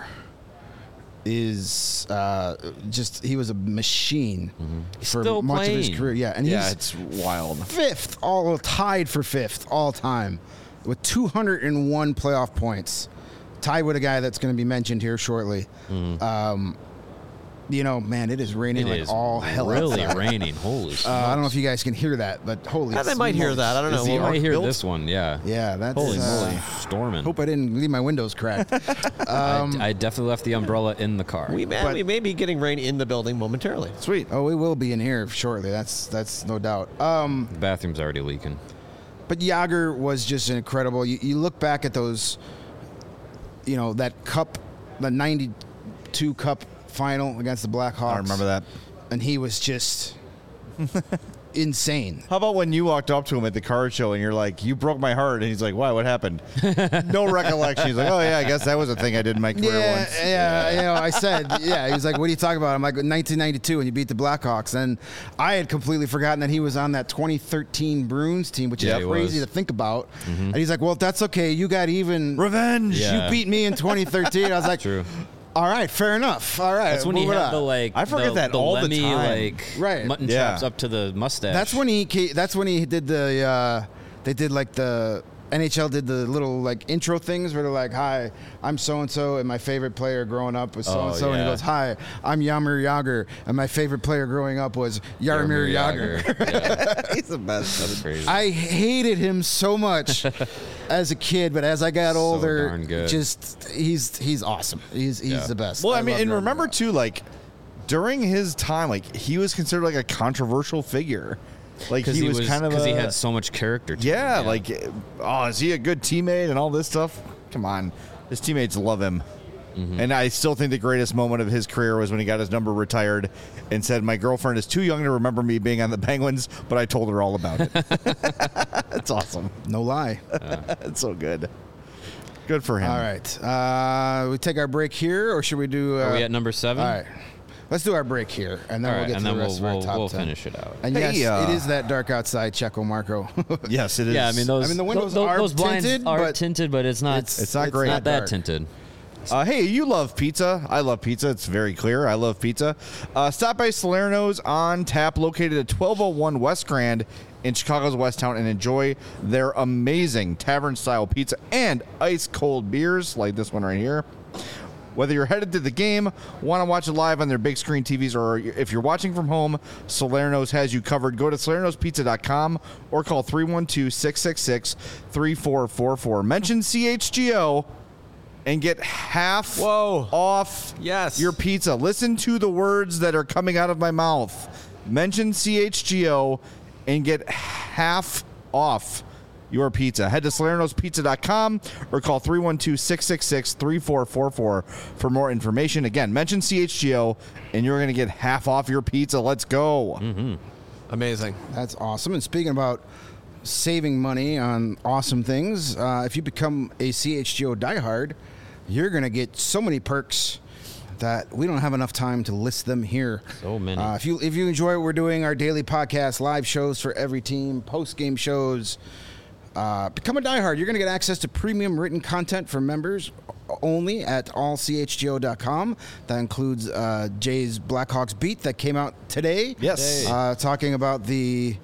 S3: is uh, just, he was a machine for
S2: Still
S3: much of his
S2: playing.
S3: career. Yeah, and
S1: Yeah,
S3: he's
S1: it's wild.
S3: fifth, all tied for fifth all time with two hundred one playoff points. Tied with a guy that's going to be mentioned here shortly. Um, you know, man, it is raining
S2: It
S3: like
S2: is
S3: all hell.
S2: really
S3: outside.
S2: raining. Holy
S3: Uh,
S2: smokes.
S3: I don't know if you guys can hear that, but holy
S4: Yeah, they might hear
S3: smokes.
S4: that. I don't know.
S1: Is the
S2: You
S4: Well,
S2: might
S1: arc
S2: hear
S1: built?
S2: this one, yeah.
S3: Yeah, that's
S2: Holy
S3: uh,
S2: moly. Storming.
S3: Hope I didn't leave my windows cracked.
S2: I, I definitely left the umbrella in the car.
S4: we, may,
S3: But-
S4: we may be getting rain in the building momentarily.
S1: Sweet.
S3: Oh, we will be in here shortly. That's that's no doubt. Um,
S2: the bathroom's already leaking.
S3: but Yager was just incredible. You, you look back at those, you know, that cup, the ninety-two cup final against the Blackhawks.
S1: I remember that.
S3: And he was just insane.
S1: How about when you walked up to him at the card show and you're like, "You broke my heart," and he's like, "Why? What happened?" No recollection. He's like, "Oh yeah, I guess that was a thing I did in my career
S3: Yeah,
S1: once."
S3: yeah, you know, I said, yeah. He was like, "What are you talking about?" I'm like, nineteen ninety-two, when you beat the Blackhawks, and I had completely forgotten that he was on that twenty thirteen Bruins team, which
S2: Yeah,
S3: is
S2: he
S3: crazy
S2: was.
S3: to think about. And he's like, "Well, that's okay. You got even.
S1: Revenge.
S2: Yeah.
S3: You beat me in twenty thirteen." I was like,
S2: True.
S3: "All right, fair enough. All right."
S2: That's when he
S3: moving
S2: had
S3: on.
S2: the like.
S1: I forget
S2: the,
S1: that
S2: the
S1: all the
S2: Lemmy,
S1: time.
S2: like
S3: Right.
S2: mutton
S1: Yeah.
S2: chops up to the mustache.
S3: That's when he. ca- That's when he did the. Uh, they did like the N H L did the little like intro things where they're like, "Hi, I'm so and so, and my favorite player growing up was so and so," and he
S2: yeah.
S3: goes, "Hi, I'm Jaromir Jagr, and my favorite player growing up was Jaromir Jagr."
S2: Yeah.
S1: He's the best.
S2: That's crazy.
S3: I hated him so much as a kid, but as I got
S2: So
S3: older,
S2: darn good.
S3: just he's he's awesome. He's he's
S2: Yeah.
S3: the best.
S1: Well, I, mean,
S3: love
S1: and
S3: Jaromir
S1: remember
S3: Jagr.
S1: too, like during his time, like he was considered like a controversial figure. Like
S2: Because
S1: he,
S2: he
S1: was,
S2: was
S1: kind of
S2: because
S1: a,
S2: he had so much character. To
S1: yeah,
S2: him.
S1: like oh, is he a good teammate and all this stuff? Come on, his teammates love him.
S2: Mm-hmm.
S1: And I still think the greatest moment of his career was when he got his number retired and said, "My girlfriend is too young to remember me being on the Penguins, but I told her all about it." That's awesome.
S3: No lie.
S1: It's so good. Good for him.
S3: All right, uh, we take our break here, or should we do? Uh,
S2: Are we at number seven?
S3: All right, let's do our break here, and then
S2: All
S3: we'll
S2: right,
S3: get
S2: and
S3: to
S2: then
S3: the rest
S2: we'll
S3: of our
S2: we'll,
S3: top
S2: we'll
S3: ten.
S2: finish it out.
S3: And
S1: Hey,
S3: yes,
S1: uh,
S3: it is that dark outside, Checo Marco.
S1: Yes, it is.
S2: Yeah, I mean those.
S3: I mean, the windows
S2: those,
S3: are
S2: those blinds
S3: tinted,
S2: are
S3: but
S2: tinted, but it's not.
S3: it's-
S1: It's not great.
S2: Not that
S3: dark.
S2: tinted.
S1: Uh, hey, you love pizza. I love pizza. It's very clear. I love pizza. Uh, stop by Salerno's on tap, located at twelve oh one West Grand in Chicago's West Town, and enjoy their amazing tavern-style pizza and ice-cold beers like this one right here. Whether you're headed to the game, want to watch it live on their big screen T Vs, or if you're watching from home, Salerno's has you covered. Go to salernos pizza dot com or call three one two, six six six, three four four four. Mention C H G O and get half
S4: Whoa.
S1: off
S4: Yes.
S1: your pizza. Listen to the words that are coming out of my mouth. Mention C H G O and get half off your pizza. Head to salernos pizza dot com or call three one two, six six six, three four four four for more information. Again, mention C H G O and you're going to get half off your pizza. Let's go.
S2: Mm-hmm.
S4: Amazing.
S3: That's awesome. And speaking about saving money on awesome things, uh, if you become a C H G O diehard, you're going to get so many perks that we don't have enough time to list them here.
S2: So many.
S3: Uh, if you if you enjoy what we're doing, our daily podcast, live shows for every team, post game shows, uh, become a diehard. You're going to get access to premium written content for members only at all c h g o dot com. That includes uh, Jay's Blackhawks beat that came out today.
S1: Yes.
S3: Uh, talking about the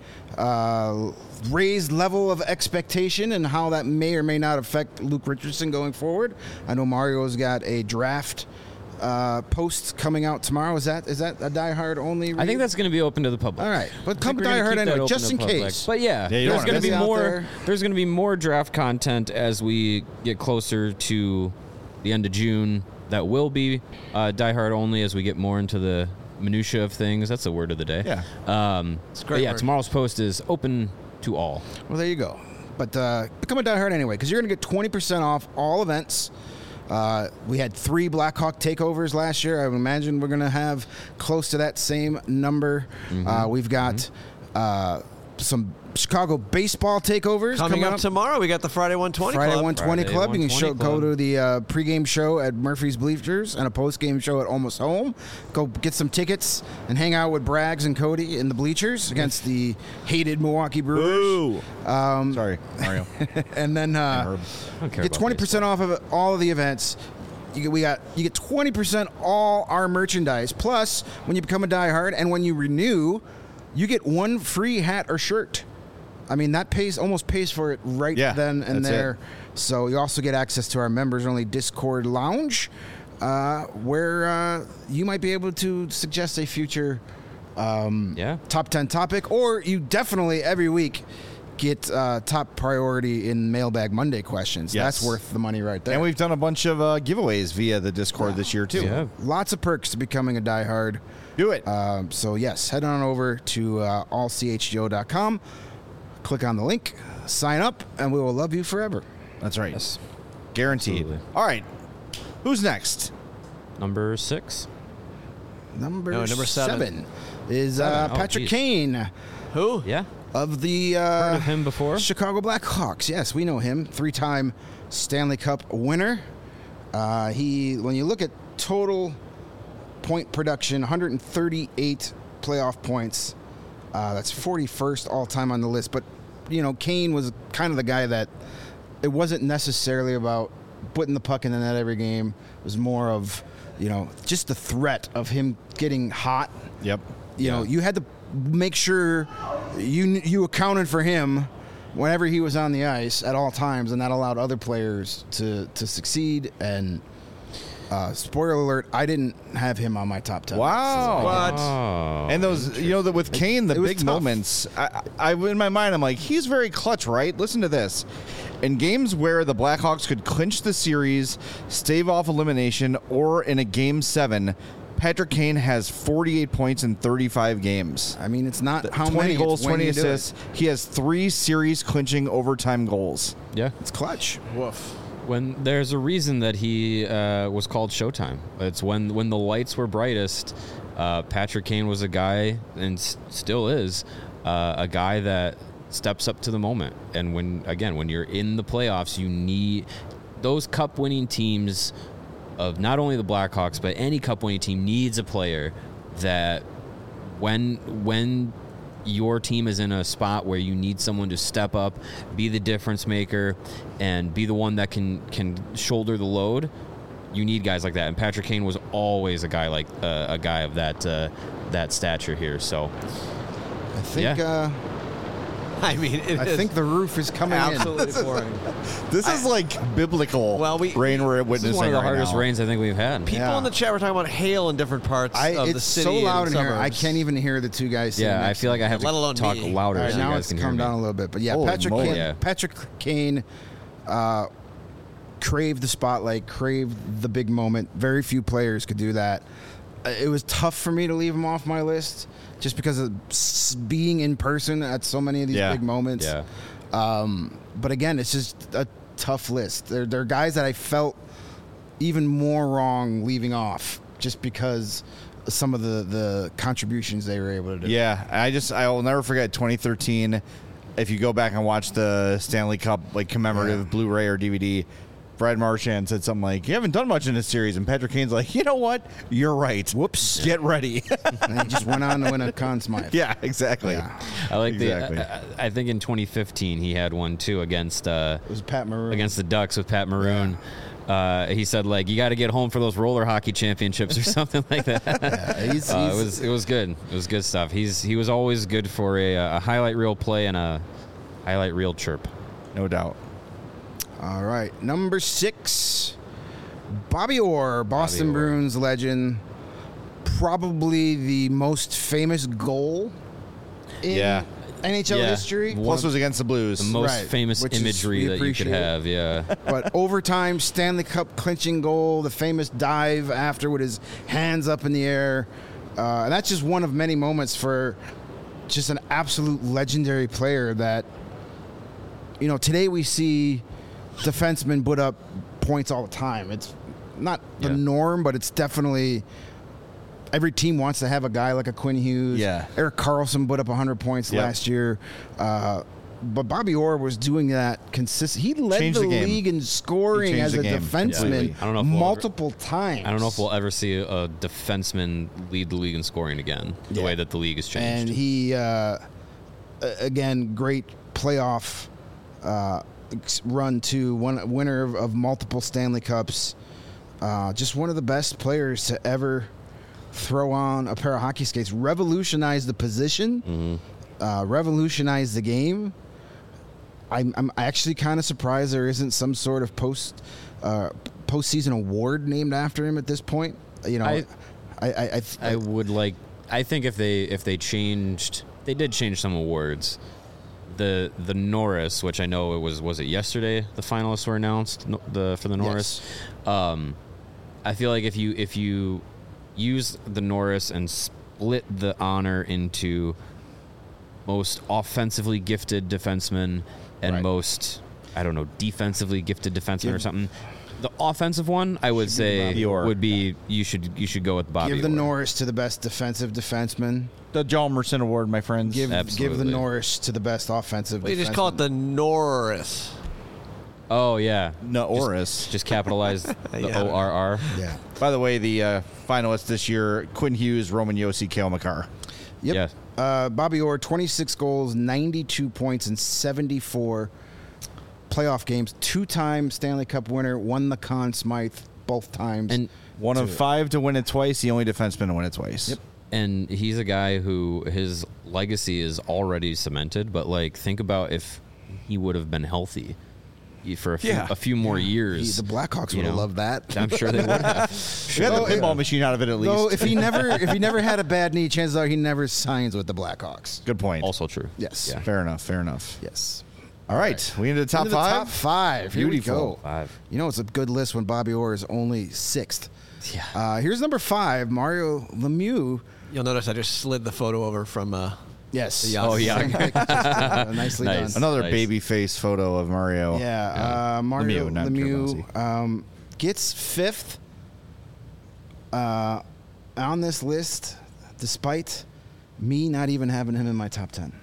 S3: uh, raised level of expectation and how that may or may not affect Luke Richardson going forward. I know Mario's got a draft uh, post coming out tomorrow. Is that is that a diehard only read?
S2: I think that's going to be open to the public.
S3: All right, but
S2: I
S3: come
S2: think we're gonna
S3: diehard
S2: keep that
S3: anyway,
S2: open
S3: just
S2: to
S3: in
S2: the public.
S3: case.
S2: But yeah,
S1: Yeah, you
S2: there's
S1: don't
S2: going to
S3: wanna
S2: be
S3: miss out
S2: more.
S3: there.
S2: There's going to be more draft content as we get closer to the end of June. That will be uh, diehard only as we get more into the minutia of things. That's the word of the day.
S1: Yeah.
S2: Um,
S4: It's a
S2: but
S4: great
S2: yeah,
S4: word.
S2: tomorrow's post is open to all.
S3: Well, there you go. But uh, become a diehard anyway, because you're going to get twenty percent off all events. Uh, we had three Blackhawk takeovers last year. I would imagine we're going to have close to that same number. Uh, we've got uh, some Chicago baseball takeovers
S4: Coming up tomorrow, we got the Friday one twenty
S3: Friday
S4: Club.
S3: one twenty
S2: Friday
S3: Club. You can show,
S2: one twenty
S3: go
S2: Club.
S3: to the uh, pregame show at Murphy's Bleachers and a postgame show at Almost Home. Go get some tickets and hang out with Braggs and Cody in the bleachers against the hated Milwaukee Brewers.
S1: Boo.
S3: Um,
S1: Sorry, Mario.
S3: and then uh,
S1: Herb.
S2: I don't care
S3: get
S2: about
S3: twenty percent off of all of the events. You get, we got you get twenty percent all our merchandise. Plus, when you become a diehard and when you renew, you get one free hat or shirt. I mean, that pays almost pays for it right
S1: Yeah,
S3: then and
S1: that's
S3: there.
S1: it.
S3: So you also get access to our members only Discord lounge, uh, where uh, you might be able to suggest a future um,
S2: Yeah.
S3: top ten topic, or you definitely every week get uh, top priority in Mailbag Monday questions.
S1: Yes.
S3: That's worth the money right there.
S1: And we've done a bunch of uh, giveaways via the Discord this year, too.
S2: Yeah.
S3: Lots of perks to becoming a diehard.
S1: Do it.
S3: Um, so yes, head on over to uh, all c h g o dot com, click on the link, sign up, and we will love you forever.
S1: That's right.
S2: Yes.
S1: Guaranteed.
S2: Absolutely.
S1: All right. Who's next?
S2: Number six.
S3: Number,
S4: No, number seven.
S3: seven is uh,
S2: Seven. Oh,
S3: Patrick
S2: geez.
S3: Kane
S4: Who?
S2: Yeah.
S3: of the uh,
S2: Heard of him before?
S3: Chicago Blackhawks. Yes, we know him. Three-time Stanley Cup winner. Uh, he, when you look at total point production, one hundred thirty-eight playoff points. Uh, that's forty-first all-time on the list. But you know, Kane was kind of the guy that it wasn't necessarily about putting the puck in the net every game. It was more of, you know, just the threat of him getting hot.
S1: Yep.
S3: You know, you had to make sure you you accounted for him whenever he was on the ice at all times, and that allowed other players to to succeed. And uh, spoiler alert, I didn't have him on my top ten.
S1: Wow.
S4: What?
S2: Oh.
S1: And those, you know, that with Kane, the
S3: it was
S1: big
S3: tough.
S1: moments, I, I, in my mind, I'm like, he's very clutch, right? Listen to this. In games where the Blackhawks could clinch the series, stave off elimination, or in a game seven, Patrick Kane has forty-eight points in thirty-five games.
S3: I mean, it's not how
S1: twenty
S3: many
S1: goals,
S3: it's when
S1: twenty
S3: you do it.
S1: assists. He has three series clinching overtime goals.
S2: Yeah.
S3: It's clutch. Woof.
S2: When there's a reason that he uh, was called Showtime. It's when when the lights were brightest. Uh, Patrick Kane was a guy, and s- still is, uh, a guy that steps up to the moment. And when again, when you're in the playoffs, you need those cup-winning teams of not only the Blackhawks, but any cup-winning team needs a player that when when your team is in a spot where you need someone to step up, be the difference maker, and be the one that can can shoulder the load, you need guys like that. And Patrick Kane was always a guy like uh, a guy of that uh, that stature here. So
S3: I think.
S2: Yeah.
S3: Uh,
S4: I mean, it
S3: I
S4: is
S3: think the roof is coming
S4: absolutely boring.
S1: This is like biblical
S4: Well, we-
S1: rain we're
S2: this
S1: witnessing
S2: is one of the
S1: right
S2: hardest
S1: now.
S2: rains I think we've had.
S4: People
S3: Yeah.
S4: in the chat were talking about hail in different parts
S3: in. I,
S4: of
S3: it's
S4: the city.
S3: so loud
S4: and
S3: in here. I
S4: suburbs.
S3: can't even hear the two guys. sitting
S2: Yeah, I
S3: next
S2: feel
S3: to
S2: like I
S3: me.
S2: have
S4: Let
S2: to
S4: alone
S2: talk
S4: me.
S2: louder
S3: All right,
S2: so you
S3: now
S2: guys
S3: it's
S2: can hear
S3: calmed
S2: me.
S3: down a little bit, but yeah,
S1: Holy
S3: Patrick
S1: moly.
S3: Kane,
S2: Yeah.
S3: Patrick Kane uh, craved the spotlight, craved the big moment. Very few players could do that. Uh, It was tough for me to leave him off my list just because of s- being in person at so many of these
S1: Yeah.
S3: big moments.
S2: Yeah.
S3: Um, but again, it's just a tough list. There, there are guys that I felt even more wrong leaving off just because of some of the, the contributions they were able to do.
S1: Yeah, I just I will never forget twenty thirteen. If you go back and watch the Stanley Cup like commemorative
S3: Yeah.
S1: Blu-ray or D V D, Brad Marchand said something like, "You haven't done much in this series," and Patrick Kane's like, "You know what? You're right.
S3: Whoops.
S1: Get ready."
S3: And he just went on to win a Conn Smythe.
S1: yeah, exactly.
S3: Yeah.
S2: I like
S1: Exactly.
S2: the. I, I think in twenty fifteen he had one too against uh,
S3: It was Pat Maroon.
S2: against the Ducks with Pat Maroon. Uh, he said like you got to get home for those roller hockey championships or something like that.
S3: Yeah, he's,
S2: Uh,
S3: he's-
S2: it was it was good. It was good stuff. He's he was always good for a, a highlight reel play and a highlight reel chirp.
S1: No doubt.
S3: all right. Number six, Bobby Orr, Boston
S2: Orr.
S3: Bruins legend. Probably the most famous goal in
S1: Yeah.
S3: N H L
S2: Yeah.
S3: history.
S2: One
S1: Plus,
S2: of
S1: was against the Blues.
S2: The most
S3: Right,
S2: famous
S3: which is-
S2: imagery
S3: we
S2: that you could
S3: appreciate.
S2: have. Yeah.
S3: But overtime Stanley Cup clinching goal, the famous dive after with his hands up in the air. Uh, and that's just one of many moments for just an absolute legendary player that, you know, today we see defensemen put up points all the time. It's not the
S2: Yeah.
S3: norm, but it's definitely every team wants to have a guy like a Quinn Hughes.
S1: Yeah.
S3: Eric Carlson put up one hundred points
S1: Yep.
S3: last year. Uh, but Bobby Orr was doing that consistent. He led
S1: Changed
S3: the,
S1: the game.
S3: league in scoring
S1: He changed
S3: as
S1: the
S3: a
S1: game
S3: defenseman
S1: completely.
S2: I don't know if we'll
S3: multiple times.
S2: I don't know if we'll ever see a defenseman lead the league in scoring again. The
S3: Yeah.
S2: way that the league has changed.
S3: And he, uh, a- again, great playoff uh, ex- run too. One winner of, of multiple Stanley Cups. Uh, just one of the best players to ever throw on a pair of hockey skates. Revolutionized the position.
S2: Mm-hmm.
S3: Uh, revolutionized the game. I'm, I'm actually kind of surprised there isn't some sort of post uh, postseason award named after him at this point. You know,
S2: I-
S3: I, I, I,
S2: I would like. I think if they if they changed, they did change some awards. The the Norris, which I know it was was it yesterday the finalists were announced no, the for the Norris. Um, I feel like if you if you use the Norris and split the honor into most offensively gifted defenseman and
S3: Right.
S2: most I don't know defensively gifted defenseman or
S3: Give-
S2: something. The offensive one, I would say,
S1: Bobby Orr.
S2: would be you should you should go with Bobby.
S3: give the
S2: Orr.
S3: Norris to the best defensive defenseman.
S1: The John Merson Award, my friends.
S3: Give give the
S2: Absolutely.
S3: Norris to the best offensive.
S4: Well, you just
S3: defenseman.
S4: call it the Norris.
S2: Oh yeah,
S1: no, Oris.
S2: just capitalize the
S4: Yeah.
S2: O R R.
S3: Yeah.
S1: By the way, the uh, finalists this year: Quinn Hughes, Roman Josi, Cale Makar.
S3: Yep.
S2: Yeah.
S3: Uh, Bobby Orr, twenty-six goals, ninety-two points in seventy-four playoff games. Two-time Stanley Cup winner, won the Conn Smythe both times.
S2: And
S1: One of five to win it twice. The only defenseman to win it twice.
S3: Yep.
S2: and he's a guy who his legacy is already cemented. But like, think about if he would have been healthy for a few,
S1: Yeah.
S2: a few more
S3: He,
S2: years.
S3: the Blackhawks
S2: you
S3: would have
S2: know.
S3: loved that.
S2: I'm sure they would have.
S1: We got
S3: Oh,
S1: the pinball
S3: yeah.
S1: machine out of it at least.
S3: Though if he never if he never had a bad knee, chances are he never signs with the Blackhawks.
S1: Good point.
S2: Also true.
S3: Yes.
S2: Yeah.
S1: Fair enough. Fair enough.
S3: Yes.
S1: All right. We into the top
S3: Into the
S1: five.
S3: top five. Here
S1: Beautiful.
S3: we go.
S2: Five.
S3: You know, it's a good list when Bobby Orr is only sixth.
S2: Yeah.
S3: Uh, here's number five, Mario Lemieux.
S4: You'll notice I just slid the photo over from. Uh,
S3: Yes.
S4: Yeah. Oh,
S2: yeah.
S3: Uh, nicely
S2: Nice.
S3: done.
S1: Another
S2: Nice.
S1: baby face photo of Mario.
S3: Yeah, uh, Mario
S1: Lemieux, not
S3: Lemieux um, gets fifth uh, on this list, despite me not even having him in my top ten.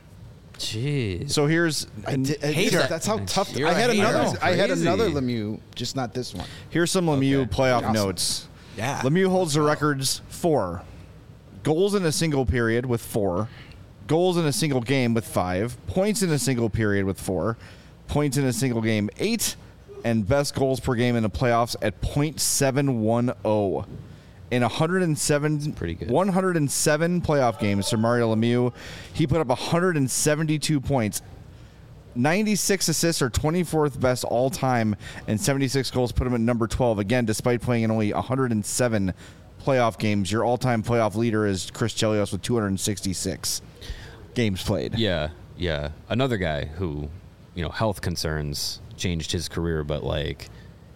S2: Jeez.
S1: So here's
S3: I did, I-
S4: Hater.
S3: That's how tough.
S4: You're
S3: I
S4: a
S3: had
S4: hater.
S3: another. I had
S2: Crazy.
S3: another Lemieux, just not this one.
S1: here's some Lemieux
S2: Okay.
S1: playoff
S3: Awesome.
S1: notes.
S4: Yeah.
S1: Lemieux holds the records for goals in a single period with four, goals in a single game with five, points in a single period with four, points in a single game eight, and best goals per game in the playoffs at point seven one zero. In one hundred seven,
S2: pretty good.
S1: one hundred seven playoff games for Mario Lemieux, he put up one hundred seventy-two points. ninety-six assists are twenty-fourth best all time, and seventy-six goals put him at number twelve. Again, despite playing in only one hundred seven playoff games, your all-time playoff leader is Chris Chelios with two hundred sixty-six games played.
S2: Yeah, yeah. Another guy who, you know, health concerns changed his career, but like,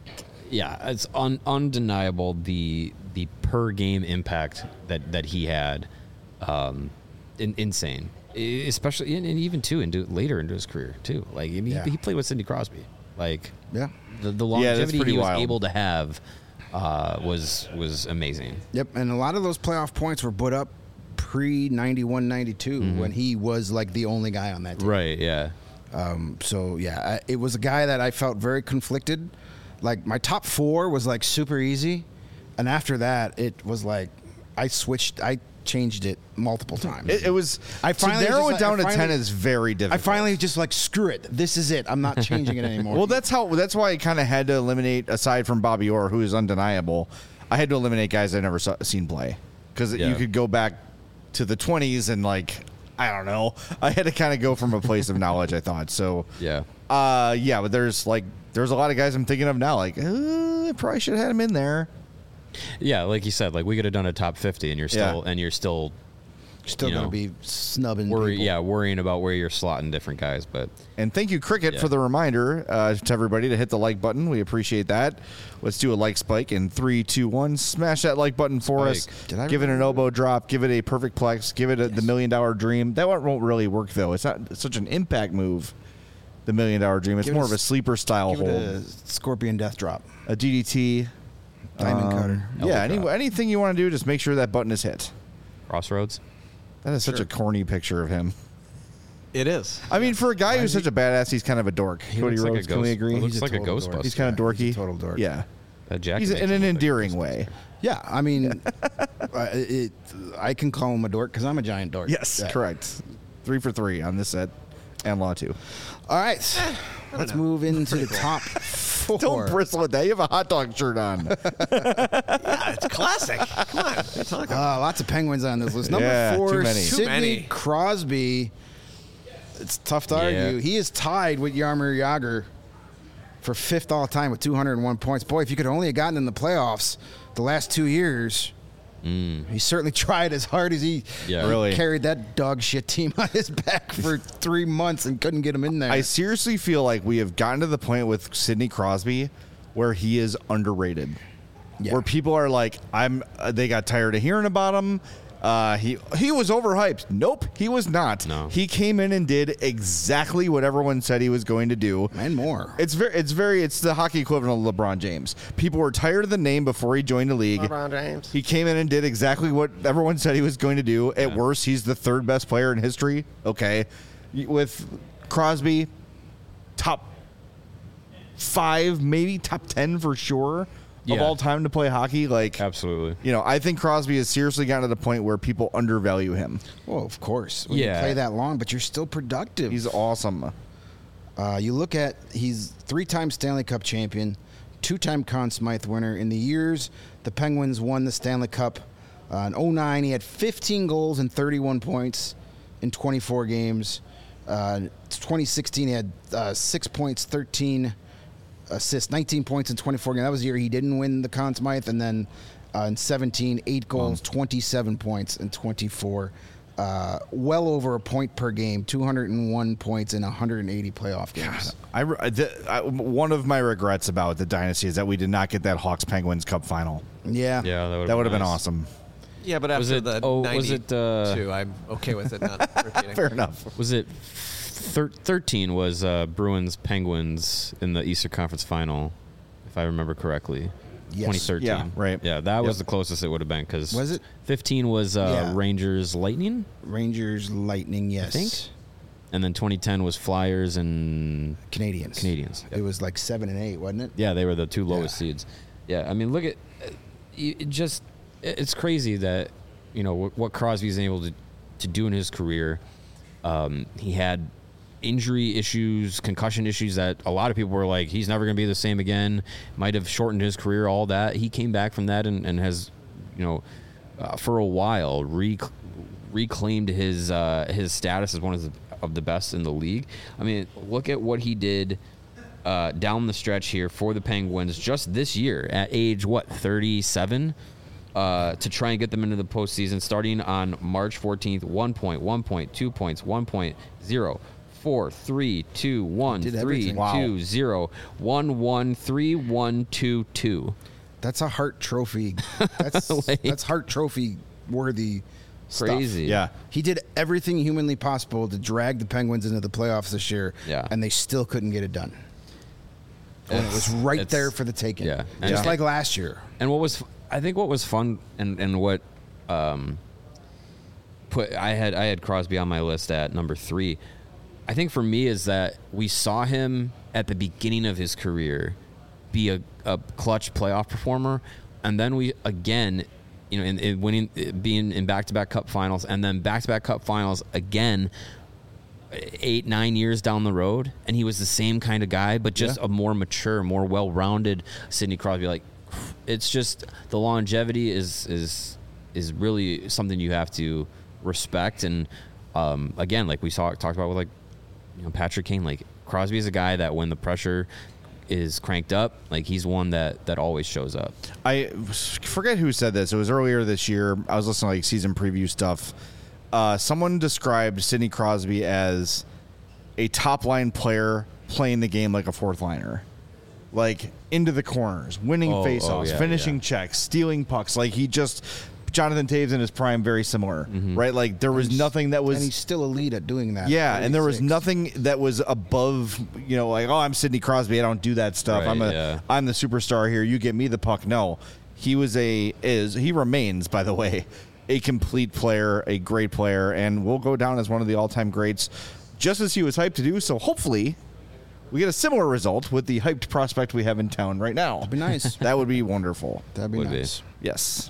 S2: yeah, it's un- undeniable the the per game impact that that he had, um, in, insane. I- Especially and, and even too into later into his career too. Like I mean,
S3: Yeah.
S2: he, he played with Sidney Crosby. Like
S3: Yeah.
S2: the, the
S1: Yeah, that's
S2: longevity
S1: pretty
S2: he was
S1: wild.
S2: able to have uh, was was amazing.
S3: Yep, and a lot of those playoff points were put up pre ninety-one ninety-two when he was like the only guy on that team.
S2: Right. Yeah.
S3: Um, so yeah, I, it was a guy that I felt very conflicted. Like my top four was like super easy, and after that, it was like I switched. I changed it multiple times.
S1: It, it was.
S3: I
S1: to
S3: finally
S1: narrow
S3: just,
S1: it down
S3: I
S1: to ten
S3: finally-
S1: is very
S3: I
S1: difficult.
S3: finally just like screw it. This is it. I'm not changing it anymore.
S1: Well, that's how. That's why I kind of had to eliminate, aside from Bobby Orr, who is undeniable. I had to eliminate guys I've never saw, seen play, because
S2: Yeah.
S1: you could go back to the twenties and like I don't know. I had to kind of go from a place of knowledge. I thought so.
S2: Yeah.
S1: Uh, yeah, but there's like there's a lot of guys I'm thinking of now. Like, uh, I probably should have had him in there.
S2: Yeah. Like you said, like we could have done a top fifty, and you're still
S1: Yeah.
S2: and you're still
S3: still
S2: you
S3: gonna
S2: know,
S3: be snubbing.
S2: worry,
S3: people.
S2: yeah, worrying about where you're slotting different guys. But
S1: And thank you, Cricket,
S2: Yeah.
S1: for the reminder uh, to everybody to hit the like button. We appreciate that. Let's do a like spike in three, two, one. Smash that like button for
S2: Spike.
S1: us.
S3: Did I
S1: give it an
S3: remember
S1: elbow drop. Give it a perfect plex. Give it a, the million dollar dream. That one won't really work though. It's not such an impact move. The million dollar dream. It's
S3: Give it
S1: more
S3: a
S1: of a
S3: s-
S1: sleeper style
S3: Give
S1: hold.
S3: it a Scorpion Death Drop.
S1: A D D T.
S3: Diamond
S1: um,
S3: Cutter.
S1: Yeah.
S2: Elbow
S1: Any,
S2: drop.
S1: anything you want to do, just make sure that button is hit.
S2: Crossroads.
S1: That is such
S3: Sure.
S1: a corny picture of him.
S4: It is.
S1: I mean, for a guy who's such a badass, he's kind of a dork.
S2: He
S1: Cody
S2: looks like a
S1: Rhodes, can we
S2: ghost-
S1: agree?
S2: he looks
S3: He's a
S2: like a
S3: total
S2: Ghostbuster.
S3: dork.
S1: He's kind of
S3: Yeah,
S1: dorky.
S3: he's a total dork.
S1: Yeah.
S2: That jacket.
S1: He's
S2: makes
S1: in
S2: him
S1: an
S2: look like
S1: endearing
S2: Ghostbusters.
S1: way.
S3: Yeah, I mean, uh, it, I can call him a dork because I'm a giant dork.
S1: Yes,
S3: Yeah.
S1: correct. Three for three on this set, and Law two.
S3: All right, let's move into the top four.
S1: Don't bristle at that. You have a hot dog shirt on.
S4: Yeah, it's classic. Come on. What are you talking about?
S3: Uh, lots of Penguins on this list. Number
S1: Yeah,
S3: four,
S1: too many.
S4: Too
S3: Sidney
S4: many.
S3: Crosby. It's tough to
S2: Yeah.
S3: argue. He is tied with Jaromir Jagr for fifth all time with two hundred one points. Boy, if you could only have gotten in the playoffs the last two years, he certainly tried as hard as he
S2: Yeah.
S3: he
S1: Really.
S3: carried that dog shit team on his back for three months and couldn't get him in there.
S1: I seriously feel like we have gotten to the point with Sidney Crosby where he is underrated.
S3: Yeah.
S1: Where people are like, I'm. Uh, they got tired of hearing about him. Uh, he he was overhyped. Nope, he was not.
S2: No.
S1: He came in and did exactly what everyone said he was going to do.
S3: and more.
S1: It's very, it's very, it's the hockey equivalent of LeBron James. People were tired of the name before he joined the league.
S4: LeBron James.
S1: He came in and did exactly what everyone said he was going to do. At worst, he's the third best player in history. Okay, with Crosby, top five, maybe top ten for sure of
S2: Yeah.
S1: all time to play hockey. Like,
S2: Absolutely.
S1: you know, I think Crosby has seriously gotten to the point where people undervalue him.
S3: Well, of course. When
S2: Yeah.
S3: you play that long, but you're still productive.
S1: He's awesome.
S3: Uh, you look at he's three-time Stanley Cup champion, two-time Conn Smythe winner. In the years the Penguins won the Stanley Cup uh, in oh nine, he had fifteen goals and thirty-one points in twenty-four games. Uh, twenty sixteen, he had uh, six points, thirteen assists, nineteen points in twenty-four games. That was the year he didn't win the Conn Smythe. And then uh, in seventeen, eight goals, twenty-seven points in twenty-four. Uh, well over a point per game, two hundred one points in one hundred eighty playoff games.
S1: I, the, I, one of my regrets about the dynasty is that we did not get that Hawks Penguins Cup final.
S3: Yeah.
S2: Yeah, that would
S1: That would have been
S2: nice.
S1: awesome.
S4: Yeah, but
S2: Was
S4: after
S2: it-
S4: the
S2: oh, was
S4: ninety-two,
S2: it, uh,
S4: I'm okay with it not repeating.
S1: Fair enough.
S2: Was it thir- thirteen was uh, Bruins Penguins in the Eastern Conference Final, if I remember correctly.
S3: Yes.
S2: twenty thirteen.
S1: Yeah, right.
S2: Yeah, that was
S1: Yep.
S2: the closest it would have been because
S3: Was it?
S2: fifteen was uh,
S3: Yeah.
S2: Rangers Lightning,
S3: Rangers, Lightning, yes.
S2: think. and then twenty ten was Flyers and
S3: Canadians.
S2: Canadians.
S3: It was like seven and eight, wasn't it?
S2: Yeah, they were the two lowest
S3: Yeah.
S2: seeds. Yeah, I mean, look at uh, you- it just it- it's crazy that you know what, what Crosby's able to to do in his career. Um, he had injury issues, concussion issues that a lot of people were like, he's never going to be the same again. Might have shortened his career. All that he came back from that and, and has, you know, uh, for a while rec- reclaimed his uh, his status as one of the of the best in the league. I mean, look at what he did. Uh, down the stretch here for the Penguins just this year at age, what, thirty-seven? Uh, to try and get them into the postseason starting on March fourteenth, one point, one point, two points, one point, zero, four, three, two, one,
S3: Did
S2: three,
S3: everything.
S1: Wow.
S2: two, zero, one, one, three, one, two, two.
S3: That's a Hart Trophy. That's
S2: Like-
S3: that's Hart Trophy worthy stuff.
S2: Crazy.
S1: Yeah.
S3: He did everything humanly possible to drag the Penguins into the playoffs this year,
S2: Yeah.
S3: and they still couldn't get it done. And it was
S2: It's-
S3: right
S2: it's-
S3: there for the taking.
S2: yeah.
S3: Just
S2: Yeah.
S3: like last year.
S2: And what was, I think, what was fun and, and what um, put I had I had Crosby on my list at number three. I think for me is that we saw him at the beginning of his career be a, a clutch playoff performer, and then we again, you know, in, in winning, being in back-to-back Cup finals, and then back-to-back Cup finals again. Eight, nine years down the road, and he was the same kind of guy, but just
S3: Yeah.
S2: a more mature, more well-rounded Sidney Crosby. Like, it's just the longevity is is is really something you have to respect. And um, again, like we saw talked about with like you know Patrick Kane, like Crosby is a guy that when the pressure is cranked up, like he's one that that always shows up.
S1: I forget who said this. It was earlier this year. I was listening to like season preview stuff. Uh, someone described Sidney Crosby as a top line player playing the game like a fourth liner, like into the corners, winning
S2: Oh,
S1: faceoffs,
S2: oh, yeah,
S1: finishing
S2: yeah.
S1: checks, stealing pucks. Like he just Jonathan Taves in his prime, very similar,
S2: Mm-hmm.
S1: right? Like there was nothing that was
S3: and he's still elite at doing that.
S1: yeah, and there was
S3: thirty-six.
S1: nothing that was above, you know, like, oh, I'm Sidney Crosby, I don't do that stuff.
S2: Right,
S1: I'm a,
S2: yeah.
S1: I'm the superstar here. You get me the puck. No, he was a is he remains, by the way, a complete player, a great player, and will go down as one of the all-time greats, just as he was hyped to do. So hopefully, we get a similar result with the hyped prospect we have in town right now.
S3: That'd be nice.
S1: That would be wonderful.
S3: That'd be
S2: Would be.
S3: nice.
S1: Yes.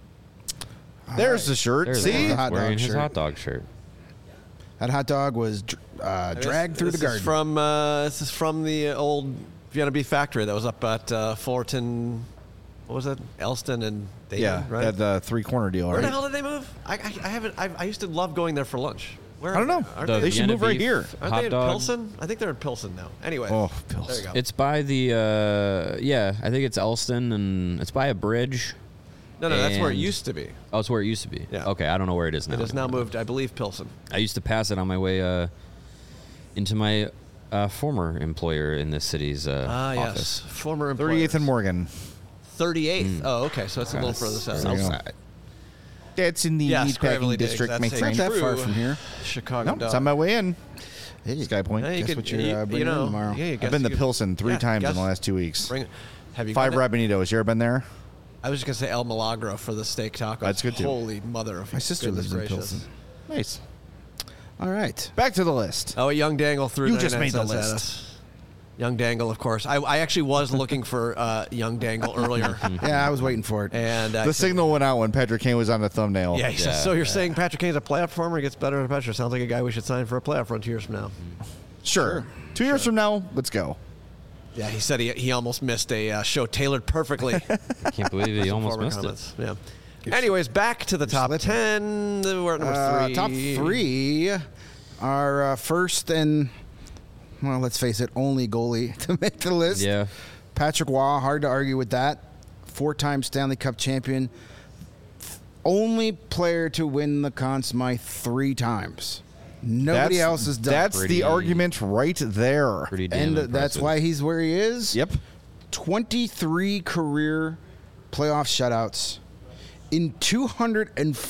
S1: There's the shirt.
S2: There's
S1: See,
S3: the hot
S2: wearing
S3: dog
S2: his
S3: shirt.
S2: hot dog shirt.
S3: That hot dog was dr- uh, dragged through the
S4: this
S3: garden.
S4: Is from uh, this is from the old Vienna Beef Factory that was up at uh, Fullerton. What was it? Elston and Dayton,
S1: yeah,
S4: right?
S1: that the three-corner deal,
S4: Where
S1: right?
S4: the hell did they move? I, I, I haven't. I, I used to love going there for lunch. Where
S1: I don't know.
S4: Aren't
S2: The
S1: They
S4: they,
S1: should
S2: Vienna
S1: move right
S2: beef
S1: here.
S4: aren't
S2: hot
S4: they in
S2: dog.
S4: Pilsen? I think they're in Pilsen now. Anyway,
S1: Oh,
S4: there you
S1: Pils.
S4: go.
S2: It's by the uh, yeah, I think it's Elston, and it's by a bridge.
S4: no, no, that's where it
S2: and-
S4: used to be.
S2: Oh, it's where it used to be.
S4: Yeah.
S2: Okay, I don't know where it is now.
S4: It has now moved, I believe, Pilsen.
S2: I used to pass it on my way uh, into my uh, former employer in this city's uh,
S4: Ah, yes,
S2: office.
S4: former
S1: thirty-eighth and
S4: employers.
S1: Morgan.
S4: thirty-eighth. Oh, okay, so it's a little further south.
S1: There you go.
S3: Southside.
S1: That's in the
S4: Yes, Gravely
S1: meatpacking
S4: Diggs,
S1: district,
S4: that's
S1: my
S4: a
S1: friend.
S3: Not that far
S4: True.
S3: from here.
S4: Chicago.
S1: No, it's
S4: dog.
S1: on my way in.
S3: Hey,
S1: Sky Point.
S4: Yeah, you
S3: Guess
S4: could,
S3: what you're,
S4: you,
S3: uh,
S4: you
S3: bringing in
S4: know,
S3: tomorrow?
S4: Yeah, you
S1: I've
S4: guess
S1: been
S4: you
S1: to
S4: could-
S1: Pilsen three
S4: yeah,
S1: times
S4: guess-
S1: in the last two weeks.
S4: Bring it. Have you
S1: Five
S4: gone there?
S1: Rabanitos. You ever been there?
S4: I was just gonna say El Milagro for the steak tacos.
S1: That's good, too.
S4: Holy mother of
S3: My sister
S4: goodness
S3: lives in
S4: gracious.
S3: Pilsen.
S1: Nice.
S3: All right.
S1: Back to the list.
S4: Oh, Young Dangle threw
S1: You just
S4: ninety-nine
S1: made the
S4: cents at
S1: list.
S4: us. Young Dangle, of course. I, I actually was looking for uh, Young Dangle earlier,
S3: Yeah, I was waiting for it.
S4: and uh,
S1: The signal went out when Patrick Kane was on the thumbnail.
S4: Yeah, he says,
S2: Yeah,
S4: so you're
S2: yeah.
S4: saying Patrick Kane's a playoff performer? He gets better and better. Sounds like a guy we should sign for a playoff run two years from now.
S1: Sure. Two years from now, let's go.
S4: Yeah, he said he, he almost missed a uh, show tailored perfectly.
S2: I can't believe he almost
S4: Former
S2: missed
S4: comments. Yeah. Anyways, back to the top
S3: slipping.
S4: ten. We're at number
S3: Uh,
S4: three.
S3: top three. our uh, first and, well, let's face it, only goalie to make the list.
S2: Yeah.
S3: Patrick Waugh, hard to argue with that. Four-time Stanley Cup champion. Only player to win the Conn Smythe three times. Nobody
S1: That's-
S3: else has done.
S1: That's
S2: Pretty-
S1: the argument right there.
S2: Pretty damn
S3: and uh,
S2: impressive.
S3: that's why he's where he is.
S1: Yep.
S3: twenty-three career playoff shutouts in two hundred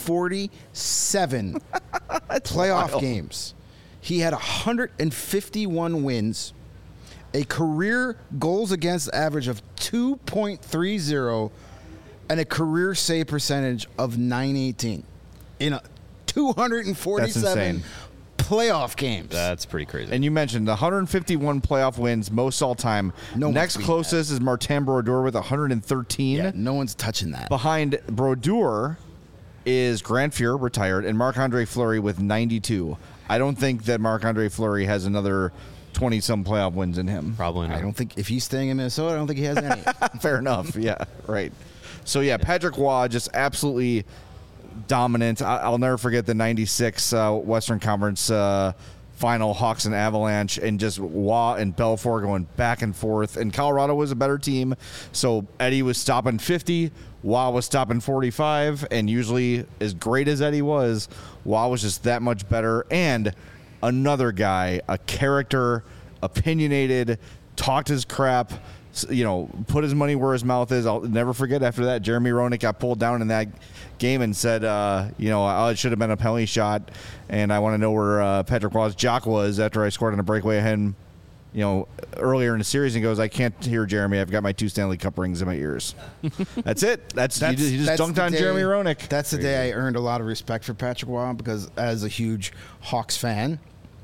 S3: forty-seven playoff
S1: wild.
S3: games. He had one hundred fifty-one wins, a career goals against average of two point three oh, and a career save percentage of nine eighteen in a two hundred forty-seven
S1: insane.
S3: playoff games.
S2: That's pretty crazy.
S1: And you mentioned the one hundred fifty-one playoff wins, most all time.
S3: No one's
S1: Next
S3: beaten
S1: closest is Martin Brodeur with one hundred thirteen.
S3: yeah, no one's touching that.
S1: Behind Brodeur is Grant Fuhr, retired, and Marc-Andre Fleury with ninety-two. I don't think that Marc-Andre Fleury has another twenty-some playoff wins in him.
S2: Probably not.
S3: I don't think if he's staying in Minnesota, I don't think he has any.
S1: Fair enough. Yeah, right. So, yeah, Patrick Waugh just absolutely dominant. I- I'll never forget the ninety-six uh, Western Conference uh, final, Hawks and Avalanche, and just Waugh and Belfour going back and forth. And Colorado was a better team, so Eddie was stopping fifty, Waugh was stopping forty-five, and usually, as great as Eddie was, Waugh was just that much better. And another guy, a character, opinionated, talked his crap, s- you know, put his money where his mouth is. I'll never forget after that, Jeremy Roenick got pulled down in that game and said, uh, you know, oh, it should have been a penalty shot, and I want to know where uh, Patrick Waugh's jock was after I scored on a breakaway ahead, you know, earlier in the series, and goes, I can't hear Jeremy. I've got my two Stanley Cup rings in my ears. That's it. That's,
S3: That's-
S1: you just, you just
S3: that's
S1: dunked
S3: the
S1: on
S3: day-
S1: Jeremy Roenick.
S3: That's the day I earned a lot of respect for Patrick Waugh because as a huge Hawks fan,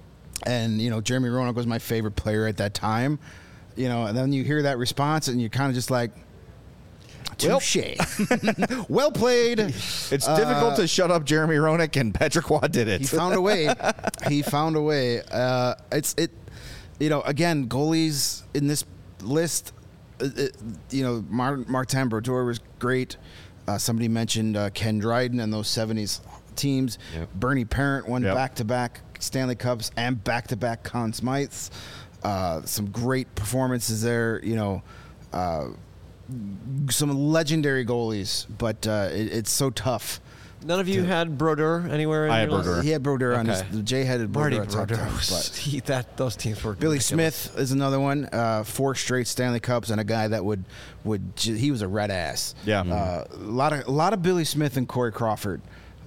S3: and you know Jeremy Roenick was my favorite player at that time, you know, and then you hear that response and you're kind of just like,
S1: Well-
S3: touche, well played.
S1: It's difficult to shut up Jeremy Roenick, and Patrick Waugh did it.
S3: He found a way. He found a way. Uh, it's it. You know, again, goalies in this list. Uh, it, you know, Mar- Martin Brodeur was great. Uh, somebody mentioned uh, Ken Dryden and those seventies teams.
S2: Yep.
S3: Bernie Parent won
S1: Yep.
S3: back-to-back Stanley Cups and back-to-back Conn Smythes. Uh, some great performances there. You know. Uh, some legendary goalies, but uh, it, it's so tough.
S4: None of you had Brodeur anywhere in
S1: I
S4: your
S1: had
S4: list?
S1: Brodeur.
S3: He had Brodeur on his.
S4: Okay.
S3: Jay had
S4: Marty
S3: Brodeur at top
S4: Brodeur.
S3: ten,
S4: was-
S3: but
S4: he, that, those teams were
S3: Billy
S4: ridiculous.
S3: Smith is another one. Uh, four straight Stanley Cups and a guy that would would j- he was a red ass.
S1: Yeah.
S3: Uh, a lot of a lot of Billy Smith and Corey Crawford.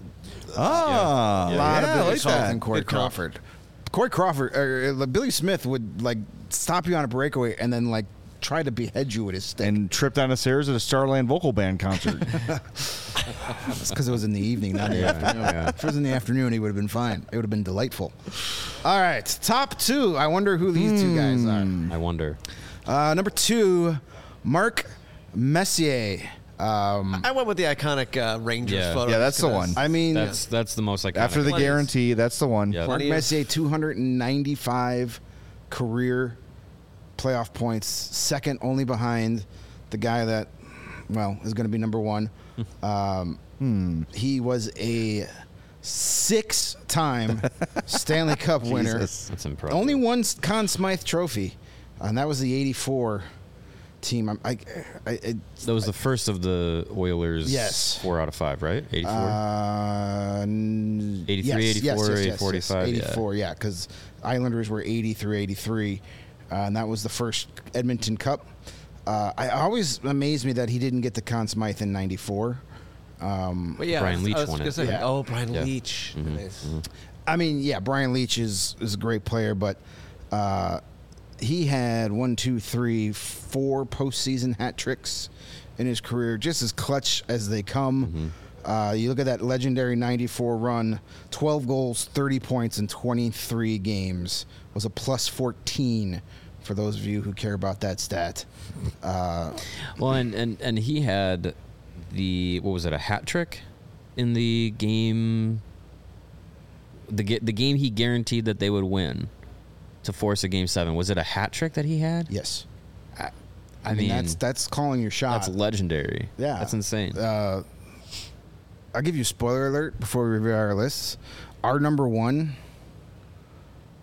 S1: Ah,
S3: A
S1: yeah,
S3: lot
S1: yeah,
S3: of
S1: I
S3: Billy
S1: like
S3: Smith
S1: that.
S3: and Corey
S4: Good call.
S3: Crawford. Corey Crawford, uh, uh, Billy Smith would like stop you on a breakaway and then like try to behead you with his stick.
S1: And tripped down the stairs at a Starland vocal band concert.
S3: That's because it was in the evening, not in the afternoon. If it was in the afternoon, he would have been fine. It would have been delightful. All right, top two. I wonder who these two guys are.
S2: I wonder.
S3: Uh, number two, Mark Messier. Um,
S4: I went with the iconic uh, Rangers
S2: Yeah.
S4: photo.
S1: Yeah, that's
S4: just
S1: the
S4: 'cause-
S1: one.
S3: I mean,
S2: That's that's the most iconic.
S1: After the
S4: Plenty.
S1: guarantee, that's the one.
S2: Yeah.
S3: Mark
S4: Plenty of-
S3: Messier, two hundred ninety-five career playoff points, second only behind the guy that, well, is going to be number one. Um, He was a six-time Stanley Cup winner.
S1: Jesus.
S2: That's impressive.
S3: Only one Conn Smythe trophy, and that was the eighty-four team. I'm- I, I, I,
S2: That was the first of the Oilers.
S3: Yes.
S2: Four out of five, right? eighty-four.
S3: Uh, n-
S2: eighty-three,
S3: yes, yes,
S2: eighty-four,
S3: yes, yes,
S2: forty-five,
S3: yes.
S2: yeah.
S3: eighty-four, yeah, because Islanders were eighty through eighty-three, uh, and that was the first Edmonton Cup. Uh, I always amazed me that he didn't get the Conn Smythe in ninety-four. Um,
S4: But yeah,
S2: Brian
S4: I was-
S2: Leach
S4: I was
S2: won
S4: gonna
S2: it.
S4: say,
S3: Yeah.
S4: Oh, Brian
S2: Yeah.
S4: Leach. Nice.
S3: I mean, yeah, Brian Leach is, is a great player, but uh, he had one, two, three, four postseason hat tricks in his career, just as clutch as they come. Uh, you look at that legendary ninety-four run, twelve goals, thirty points in twenty-three games, was a plus fourteen for those of you who care about that stat. Uh,
S2: Well, and, and, and he had the, what was it, a hat trick in the game, the ga- the game he guaranteed that they would win to force a game seven. Was it a hat trick that he had?
S3: yes. I,
S2: I
S3: mean,
S2: mean,
S3: that's that's calling your shot.
S2: That's legendary.
S3: Yeah.
S2: That's insane.
S3: Uh, I'll give you a spoiler alert before we review our lists. Our number one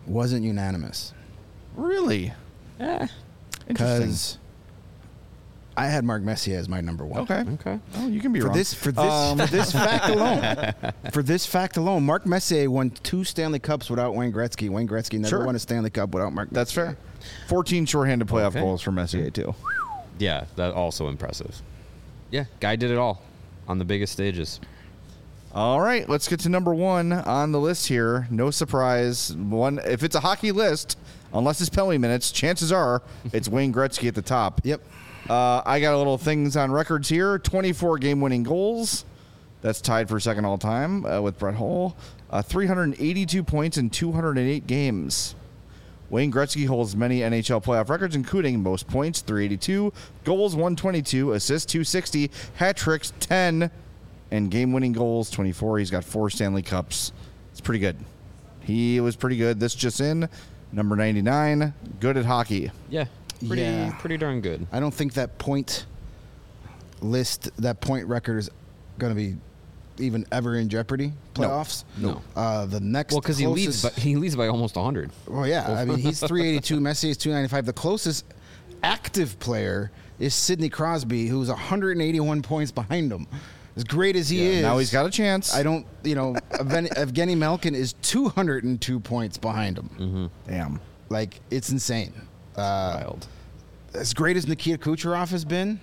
S3: wasn't unanimous.
S1: Really?
S2: Eh,
S1: Interesting.
S3: Because I had Mark Messier as my number one.
S1: Okay.
S2: okay.
S1: Oh, you can be
S3: For
S1: wrong.
S3: this, for this,
S1: Um,
S3: for this fact alone, for this fact alone, Mark Messier won two Stanley Cups without Wayne Gretzky. Wayne Gretzky never
S1: Sure.
S3: won a Stanley Cup without Mark.
S1: That's
S3: Messier.
S1: fair. fourteen shorthanded playoff
S2: Okay.
S1: goals for Messier, too.
S2: Yeah, that also impressive. Yeah, guy did it all on the biggest stages.
S1: All right, let's get to number one on the list here. No surprise. One, if it's a hockey list, unless it's penalty minutes, chances are it's Wayne Gretzky at the top.
S3: Yep.
S1: Uh, I got a little things on records here. twenty-four game-winning goals. That's tied for second all-time uh, with Brett Hull. Uh, three hundred eighty-two points in two hundred eight games. Wayne Gretzky holds many N H L playoff records, including most points, three eighty-two, goals, one twenty-two, assists, two sixty, hat tricks, ten, and game-winning goals, twenty-four. He's got four Stanley Cups. It's pretty good. He was pretty good. This just in, number ninety-nine, good at hockey.
S2: Yeah, pretty
S3: Yeah.
S2: pretty darn good.
S3: I don't think that point list, that point record is going to be even ever in jeopardy. Playoffs.
S2: No.
S3: Uh, the next.
S2: Well, because he leads,
S3: closest-
S2: by, he leads by almost one hundred.
S3: Well, yeah. I mean, he's three eighty-two. Messi is two ninety-five. The closest active player is Sidney Crosby, who's one hundred eighty-one points behind him. As great as he is,
S1: Now he's got a chance.
S3: I don't, you know, Evgeny Evgeny Malkin is two hundred two points behind him.
S2: Mm-hmm.
S1: Damn.
S3: Like, it's insane. Uh,
S2: Wild.
S3: as great as Nikita Kucherov has been,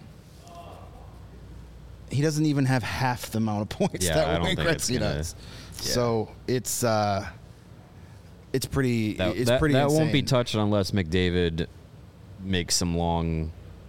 S3: he doesn't even have half the amount of points
S2: Yeah, I
S3: that
S2: don't
S3: Wayne
S2: think it's
S3: Gretzky
S2: gonna-
S3: does.
S2: yeah.
S3: So it's uh, it's pretty.
S2: That,
S3: it's
S2: that,
S3: pretty.
S2: that won't be
S3: insane.
S2: touched unless McDavid makes some long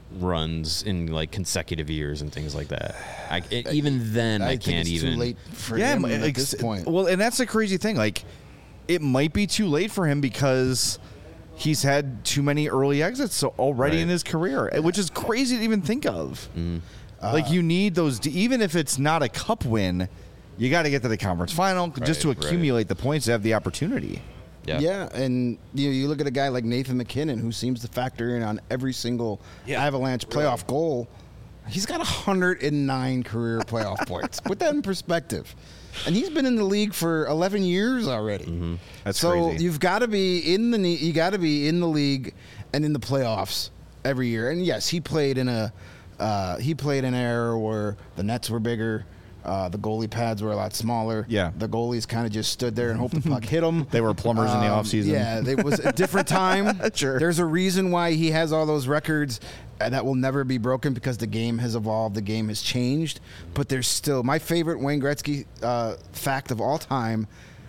S2: runs in like consecutive years and things like that. I, it, even then, I,
S3: think
S2: can't
S3: it's
S2: even.
S3: Too late for
S1: yeah,
S3: him
S1: m-
S3: at
S1: ex-
S3: this point.
S1: Well, and that's the crazy thing. Like, it might be too late for him because he's had too many early exits so already
S2: Right.
S1: in his career, which is crazy to even think of.
S2: Mm.
S1: Like, you need those, even if it's not a cup win, you got to get to the conference final just to
S2: Right, right.
S1: accumulate the points to have the opportunity.
S2: Yeah.
S3: Yeah, and you know, you look at a guy like Nathan McKinnon, who seems to factor in on every single Avalanche playoff goal. He's got one hundred nine career playoff points. Put that in perspective. And he's been in the league for eleven years already.
S2: Mm-hmm.
S1: That's
S3: so
S1: crazy.
S3: you've got to be in the ne- you got to be in the league and in the playoffs every year. And yes, he played in a uh, he played in an era where the nets were bigger. Uh, the goalie pads were a lot smaller.
S1: Yeah.
S3: The goalies kind of just stood there and hoped the puck hit them.
S1: They were plumbers in the offseason.
S3: Yeah, it was a different time.
S1: Sure.
S3: There's a reason why he has all those records uh, that will never be broken because the game has evolved, the game has changed. But there's still my favorite Wayne Gretzky uh, fact of all time.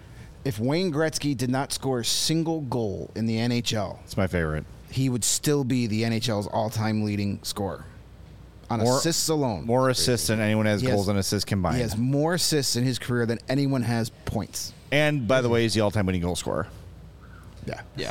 S3: If Wayne Gretzky did not score a single goal in the N H L,
S1: It's my favorite.
S3: he would still be the N H L's all-time leading scorer on
S1: More-
S3: assists alone.
S1: More assists than anyone has
S3: He has-
S1: goals and assists combined.
S3: He has more assists in his career than anyone has points.
S1: And, by the way, he's the all-time winning goal scorer.
S3: Yeah.
S2: Yeah.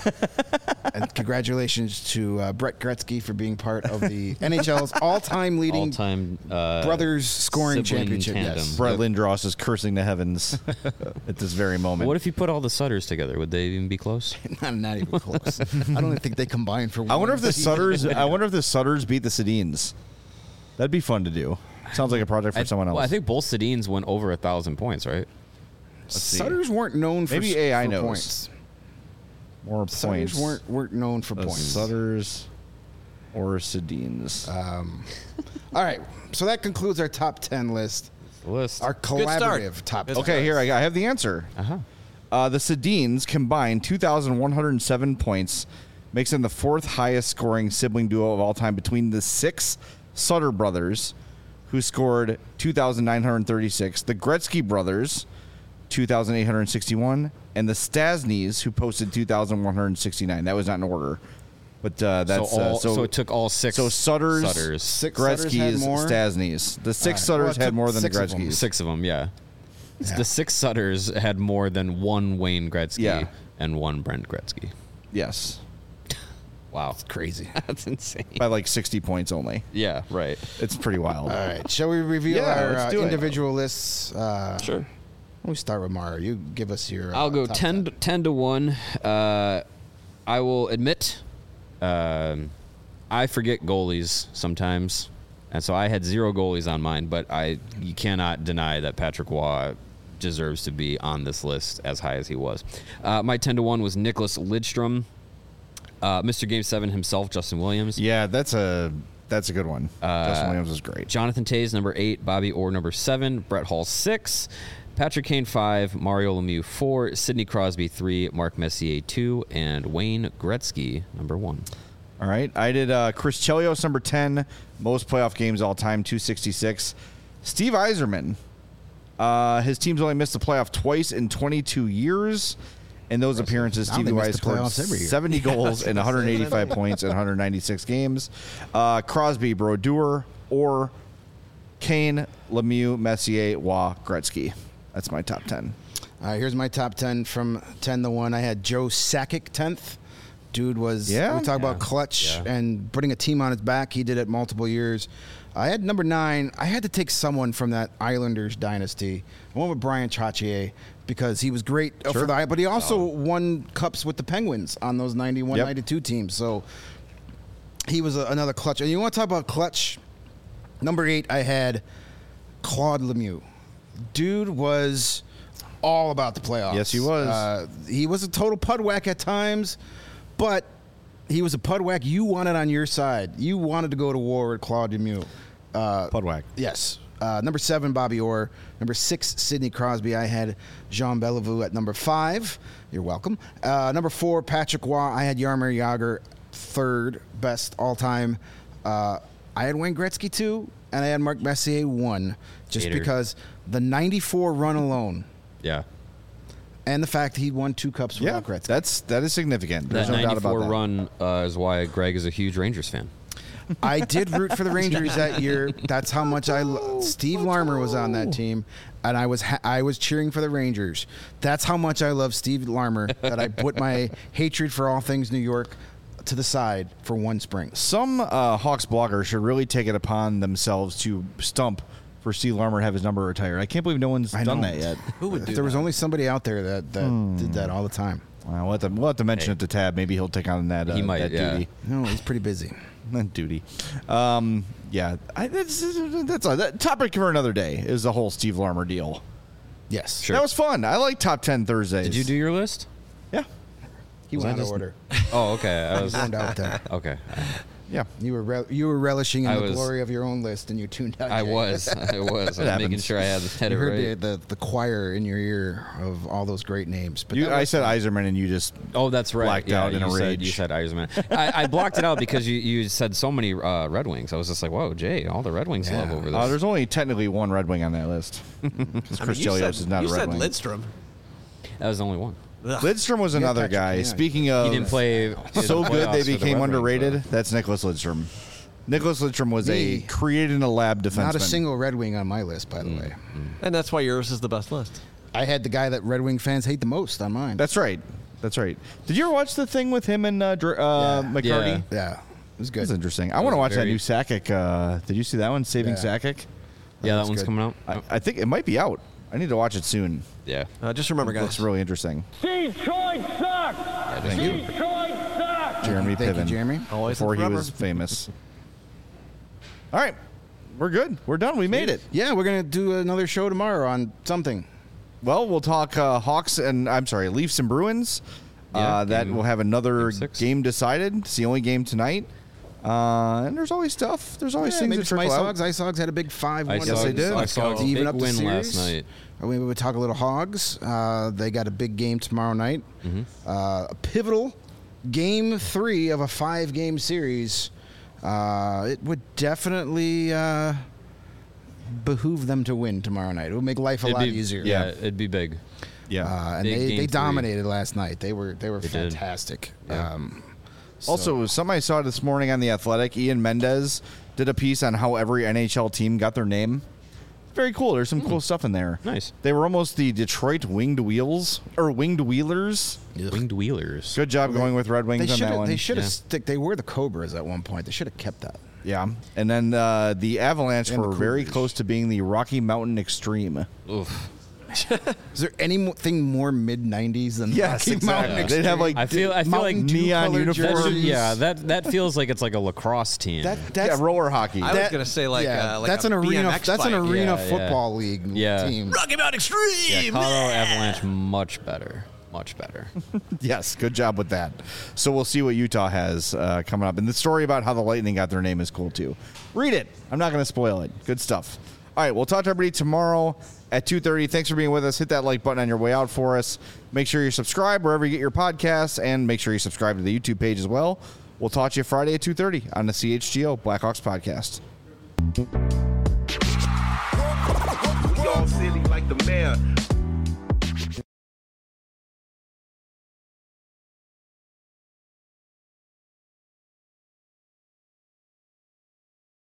S3: And congratulations to uh, Brett Gretzky for being part of the N H L's all-time leading
S2: All time uh,
S3: brothers scoring
S2: sibling
S3: championship.
S2: tandem.
S3: Yes.
S1: Brett
S2: Yep.
S1: Lindros is cursing the heavens at this very moment.
S2: What if you put all the Sutters together? Would they even be close?
S3: not, not even close. I don't even think they combined for one.
S1: I wonder if the
S3: season.
S1: Sutters. I wonder if the Sutters beat the Sedins. That'd be fun to do. Sounds like a project for
S2: I,
S1: someone else.
S2: Well, I think both Sedins went over a thousand points, right?
S1: see.
S3: Sutters weren't known for,
S1: Maybe
S3: s-
S1: A I
S3: for
S1: knows.
S3: points.
S1: more
S3: Sutters
S1: points.
S3: weren't weren't known for
S1: The
S3: points.
S1: Sutters or Sedins.
S3: Um, all right, so that concludes our top ten list.
S2: The list.
S3: Our
S4: Good start.
S3: collaborative top.
S4: Good
S3: ten.
S1: okay, here I, I have the answer.
S2: uh-huh.
S1: Uh, the Sedins combined two thousand one hundred seven points, makes them the fourth highest scoring sibling duo of all time between the six Sutter brothers, who scored two thousand nine hundred thirty-six, the Gretzky brothers, two thousand eight hundred sixty-one, and the Stasnys, who posted two thousand one hundred sixty-nine. That was not in order. But uh, that's
S2: so, all,
S1: uh, so,
S2: so it took all six.
S1: so Sutters,
S2: Sutters.
S3: Six Sutters had
S1: Gretzky's,
S3: more?
S1: Stasnys. The six
S3: All right.
S1: Sutters
S3: Well, it
S1: had
S3: took
S1: more than the
S3: six of them.
S1: Gretzky's.
S2: Six of them, yeah.
S3: Yeah.
S2: The six Sutters had more than one Wayne Gretzky
S1: Yeah.
S2: and one Brent Gretzky.
S1: Yes,
S2: Wow.
S3: Crazy.
S2: That's insane.
S1: by like sixty points only.
S2: Yeah, right.
S1: It's pretty wild.
S3: All right, shall we reveal
S1: Yeah,
S3: our
S1: let's
S3: uh,
S1: do it.
S3: individual lists? Uh,
S2: Sure.
S3: We start with Mara. You give us your. Uh,
S2: I'll go
S3: top
S2: ten, ten to one. Uh, I will admit, um, I forget goalies sometimes, and so I had zero goalies on mine. But I, you cannot deny that Patrick Waugh deserves to be on this list as high as he was. Uh, my ten to one was Nicholas Lidstrom. Uh, Mister Game seven himself, Justin Williams.
S1: Yeah, that's a that's a good one.
S2: Uh,
S1: Justin Williams was great.
S2: Jonathan Tays, number eight. Bobby Orr, number seven. Brett Hall, six. Patrick Kane, five. Mario Lemieux, four. Sidney Crosby, three. Mark Messier, two. And Wayne Gretzky, number one.
S1: All right. I did uh, Chris Chelios, number ten. Most playoff games all time, two sixty-six. Steve Yzerman. Uh, his team's only missed the playoff twice in twenty-two years. In those appearances,
S3: Now they
S1: Stevie
S3: miss
S1: Y
S3: the
S1: scored
S3: playoffs every year.
S1: seventy goals and one hundred eighty-five points in one hundred ninety-six games. Uh, Crosby, Brodeur, or Kane, Lemieux, Messier, Waugh, Gretzky. That's my top ten.
S3: All right, here's my top ten from ten to one. I had Joe Sakic tenth. Dude was,
S1: Yeah?
S3: we talk
S2: Yeah.
S3: about clutch
S2: Yeah.
S3: and putting a team on his back. He did it multiple years. I had number nine. I had to take someone from that Islanders dynasty. I went with Brian Trottier because he was great uh,
S1: Sure.
S3: for the, but he also won cups with the Penguins on those ninety-one,
S1: Yep.
S3: ninety-two teams. So he was a, another clutch. And you want to talk about clutch? Number eight, I had Claude Lemieux. Dude was all about the playoffs.
S1: Yes, he was.
S3: Uh, he was a total pud whack at times, but he was a pud whack you wanted on your side. You wanted to go to war with Claude Lemieux. Uh,
S1: Pudwack.
S3: Yes. Uh, number seven, Bobby Orr. Number six, Sidney Crosby. I had Jean Bellevue at number five. You're welcome. Uh, number four, Patrick Waugh. I had Jaromir Jagr, third best all time. Uh, I had Wayne Gretzky two, and I had Mark Messier one, just
S2: Hater.
S3: because the ninety-four run alone,
S2: Yeah.
S3: and the fact he won two cups
S1: Yeah,
S3: without Gretzky.
S1: that's that is significant. There's
S2: That
S1: no doubt about
S2: ninety-four
S1: that.
S2: run uh, is why Greg is a huge Rangers fan.
S3: I did root for the Rangers that year. That's how much I. Lo- Steve Larmer was on that team, and I was ha- I was cheering for the Rangers. That's how much I love Steve Larmer that I put my hatred for all things New York to the side for one spring.
S1: Some uh, Hawks bloggers should really take it upon themselves to stump for Steve Larmer to have his number retired. I can't believe no one's
S3: I
S1: done
S3: know.
S1: that yet.
S4: Who would do
S3: If there was
S4: that?
S3: only somebody out there that, that did that all the time.
S1: Well, we'll have to, we'll have to mention
S2: Hey.
S1: it to Tab. Maybe he'll take on that, uh,
S2: He might,
S1: that
S2: yeah.
S1: duty.
S3: No, he's pretty busy.
S1: That duty. Um, yeah, I, that's that's a that topic for another day. Is the whole Steve Larmer deal.
S3: Yes,
S2: Sure.
S1: That was fun. I like top ten Thursdays.
S2: Did you do your list?
S1: Yeah,
S3: he
S2: Was
S3: went
S2: I
S3: out of
S2: just-
S3: order.
S2: Oh, okay. I was
S3: Zoned out there.
S2: okay.
S1: yeah.
S3: You were rel- you were relishing in
S2: I
S3: the
S2: was-
S3: glory of your own list, and you tuned out.
S2: I
S3: Jay.
S2: was. I was. I was making
S1: happens.
S2: sure I had, had
S3: You
S2: it
S3: heard
S2: right.
S3: the, the the choir in your ear of all those great names. But
S1: You,
S3: that
S1: I
S3: was
S1: said
S3: fun.
S1: Iserman, and you just
S2: Oh, that's right.
S1: blacked
S2: yeah,
S1: out in
S2: you
S1: a
S2: said,
S1: rage.
S2: You said Eiserman. I, I blocked it out because you, you said so many uh, Red Wings. I was just like, whoa, Jay, all the Red Wings
S3: Yeah.
S2: love over this.
S1: Uh, there's only technically one Red Wing on that list. Because
S4: I
S1: Chris
S4: mean, you
S1: Chelios
S4: said,
S1: is not
S4: you
S1: a Red
S4: said
S1: Wing.
S4: Lidstrom.
S2: that was the only one.
S4: Ugh.
S1: Lidstrom was another
S3: Patrick
S1: guy.
S3: Kane.
S1: Speaking of
S2: He didn't play in the
S1: so good
S2: playoffs
S1: they
S2: for the
S1: became
S2: Red Wings,
S1: underrated,
S2: so-
S1: that's Nicholas Lidstrom. Nicholas Lidstrom was
S3: Me.
S1: a created in a lab defenseman.
S3: Not a single Red Wing on my list, by the
S2: Mm.
S3: way.
S4: And that's why yours is the best list.
S3: I had the guy that Red Wing fans hate the most on mine.
S1: That's right. That's right. Did you ever watch the thing with him and uh, Dr- uh,
S3: Yeah.
S1: McCarty?
S2: Yeah.
S3: yeah, it was good.
S1: That's interesting. I
S2: It
S1: want to
S2: was
S1: watch that
S2: very-
S1: new Sakic. Uh, did you see that one? Saving
S3: Yeah.
S1: Sakic?
S2: Yeah, that
S3: was
S2: one's
S3: good.
S2: coming out.
S1: I, I think it might be out. I need to watch it soon.
S2: yeah.
S4: Uh, just remember,
S1: It looks
S4: guys.
S1: really interesting.
S5: Steve Troy sucks!
S1: Thank you.
S5: Steve Troy sucks!
S1: Jeremy
S3: Thank you,
S1: Piven.
S3: Jeremy.
S4: Always
S1: Before
S4: and
S1: he
S4: forever.
S1: was famous. All right. We're good. We're done. We made it.
S3: Yeah, we're gonna do another show tomorrow on something.
S1: Well, we'll talk uh, Hawks and, I'm sorry, Leafs and Bruins.
S2: Yeah,
S1: uh, that
S2: game-
S1: will have another
S2: game six.
S1: game decided. It's the only game tonight. Uh, and there's always stuff. There's always
S3: Yeah,
S1: things
S3: maybe
S1: that
S3: some
S1: trickle
S3: Ice
S1: out.
S3: Hogs. Ice Hogs had a big five one.
S2: I
S1: Yes,
S2: saw,
S1: they did.
S2: I saw
S3: to
S2: a
S3: even
S2: big
S3: up the
S2: win last
S3: series.
S2: night.
S3: Uh, We would talk a little Hogs. Uh, they got a big game tomorrow night.
S2: Mm-hmm.
S3: Uh, a pivotal game three of a five game series. Uh, it would definitely uh, behoove them to win tomorrow night. It would make life a
S2: It'd
S3: lot
S2: be,
S3: easier.
S2: Yeah, it'd be big.
S1: Yeah.
S3: Uh, and
S2: Big
S3: they,
S2: game
S3: they
S2: three.
S3: dominated last night. They were they were
S2: They did.
S3: fantastic.
S2: Yeah.
S3: Um, so-
S1: Also, something I saw this morning on The Athletic, Ian Mendez did a piece on how every N H L team got their name. Very cool. There's some cool stuff in there.
S2: Nice.
S1: They were almost the Detroit Winged Wheels, or Winged Wheelers.
S2: Winged Wheelers.
S1: Good job going with Red Wings
S3: they
S1: on
S3: should
S1: that
S3: have
S1: one.
S3: they should have
S2: Yeah.
S3: stick. They were the Cobras at one point. They should have kept that.
S1: Yeah. And then uh, the Avalanche
S3: And the
S1: were very
S3: Cougars.
S1: close to being the Rocky Mountain Extreme.
S2: Oof.
S3: Is there anything more mid nineties than
S1: Yes,
S3: Rocky
S1: exactly.
S3: Mountain
S1: They'd have like
S2: I feel I feel like
S3: Mountain Dew
S1: neon
S3: colored
S2: that
S1: uniforms.
S2: should,
S3: jerseys.
S2: yeah, that that feels like it's like a lacrosse team.
S3: That
S1: yeah,
S3: that's
S1: roller hockey.
S4: I was
S3: that-
S4: gonna say like
S3: yeah,
S4: uh, like
S3: that's
S4: a
S3: an arena.
S4: B M X
S3: That's an
S4: bike.
S3: arena
S2: Yeah, yeah.
S3: football league
S2: Yeah.
S3: team.
S4: Rocky Mountain Extreme.
S2: yeah, Colorado Avalanche much better, much better.
S1: Yes, good job with that. So we'll see what Utah has uh, coming up. And the story about how the Lightning got their name is cool, too. Read it. I'm not going to spoil it. Good stuff. All right, we'll talk to everybody tomorrow at two thirty. Thanks for being with us. Hit that like button on your way out for us. Make sure you're subscribed wherever you get your podcasts, and make sure you subscribe to the YouTube page as well. We'll talk to you Friday at two thirty on the C H G O Blackhawks podcast.
S6: We all silly like the mayor.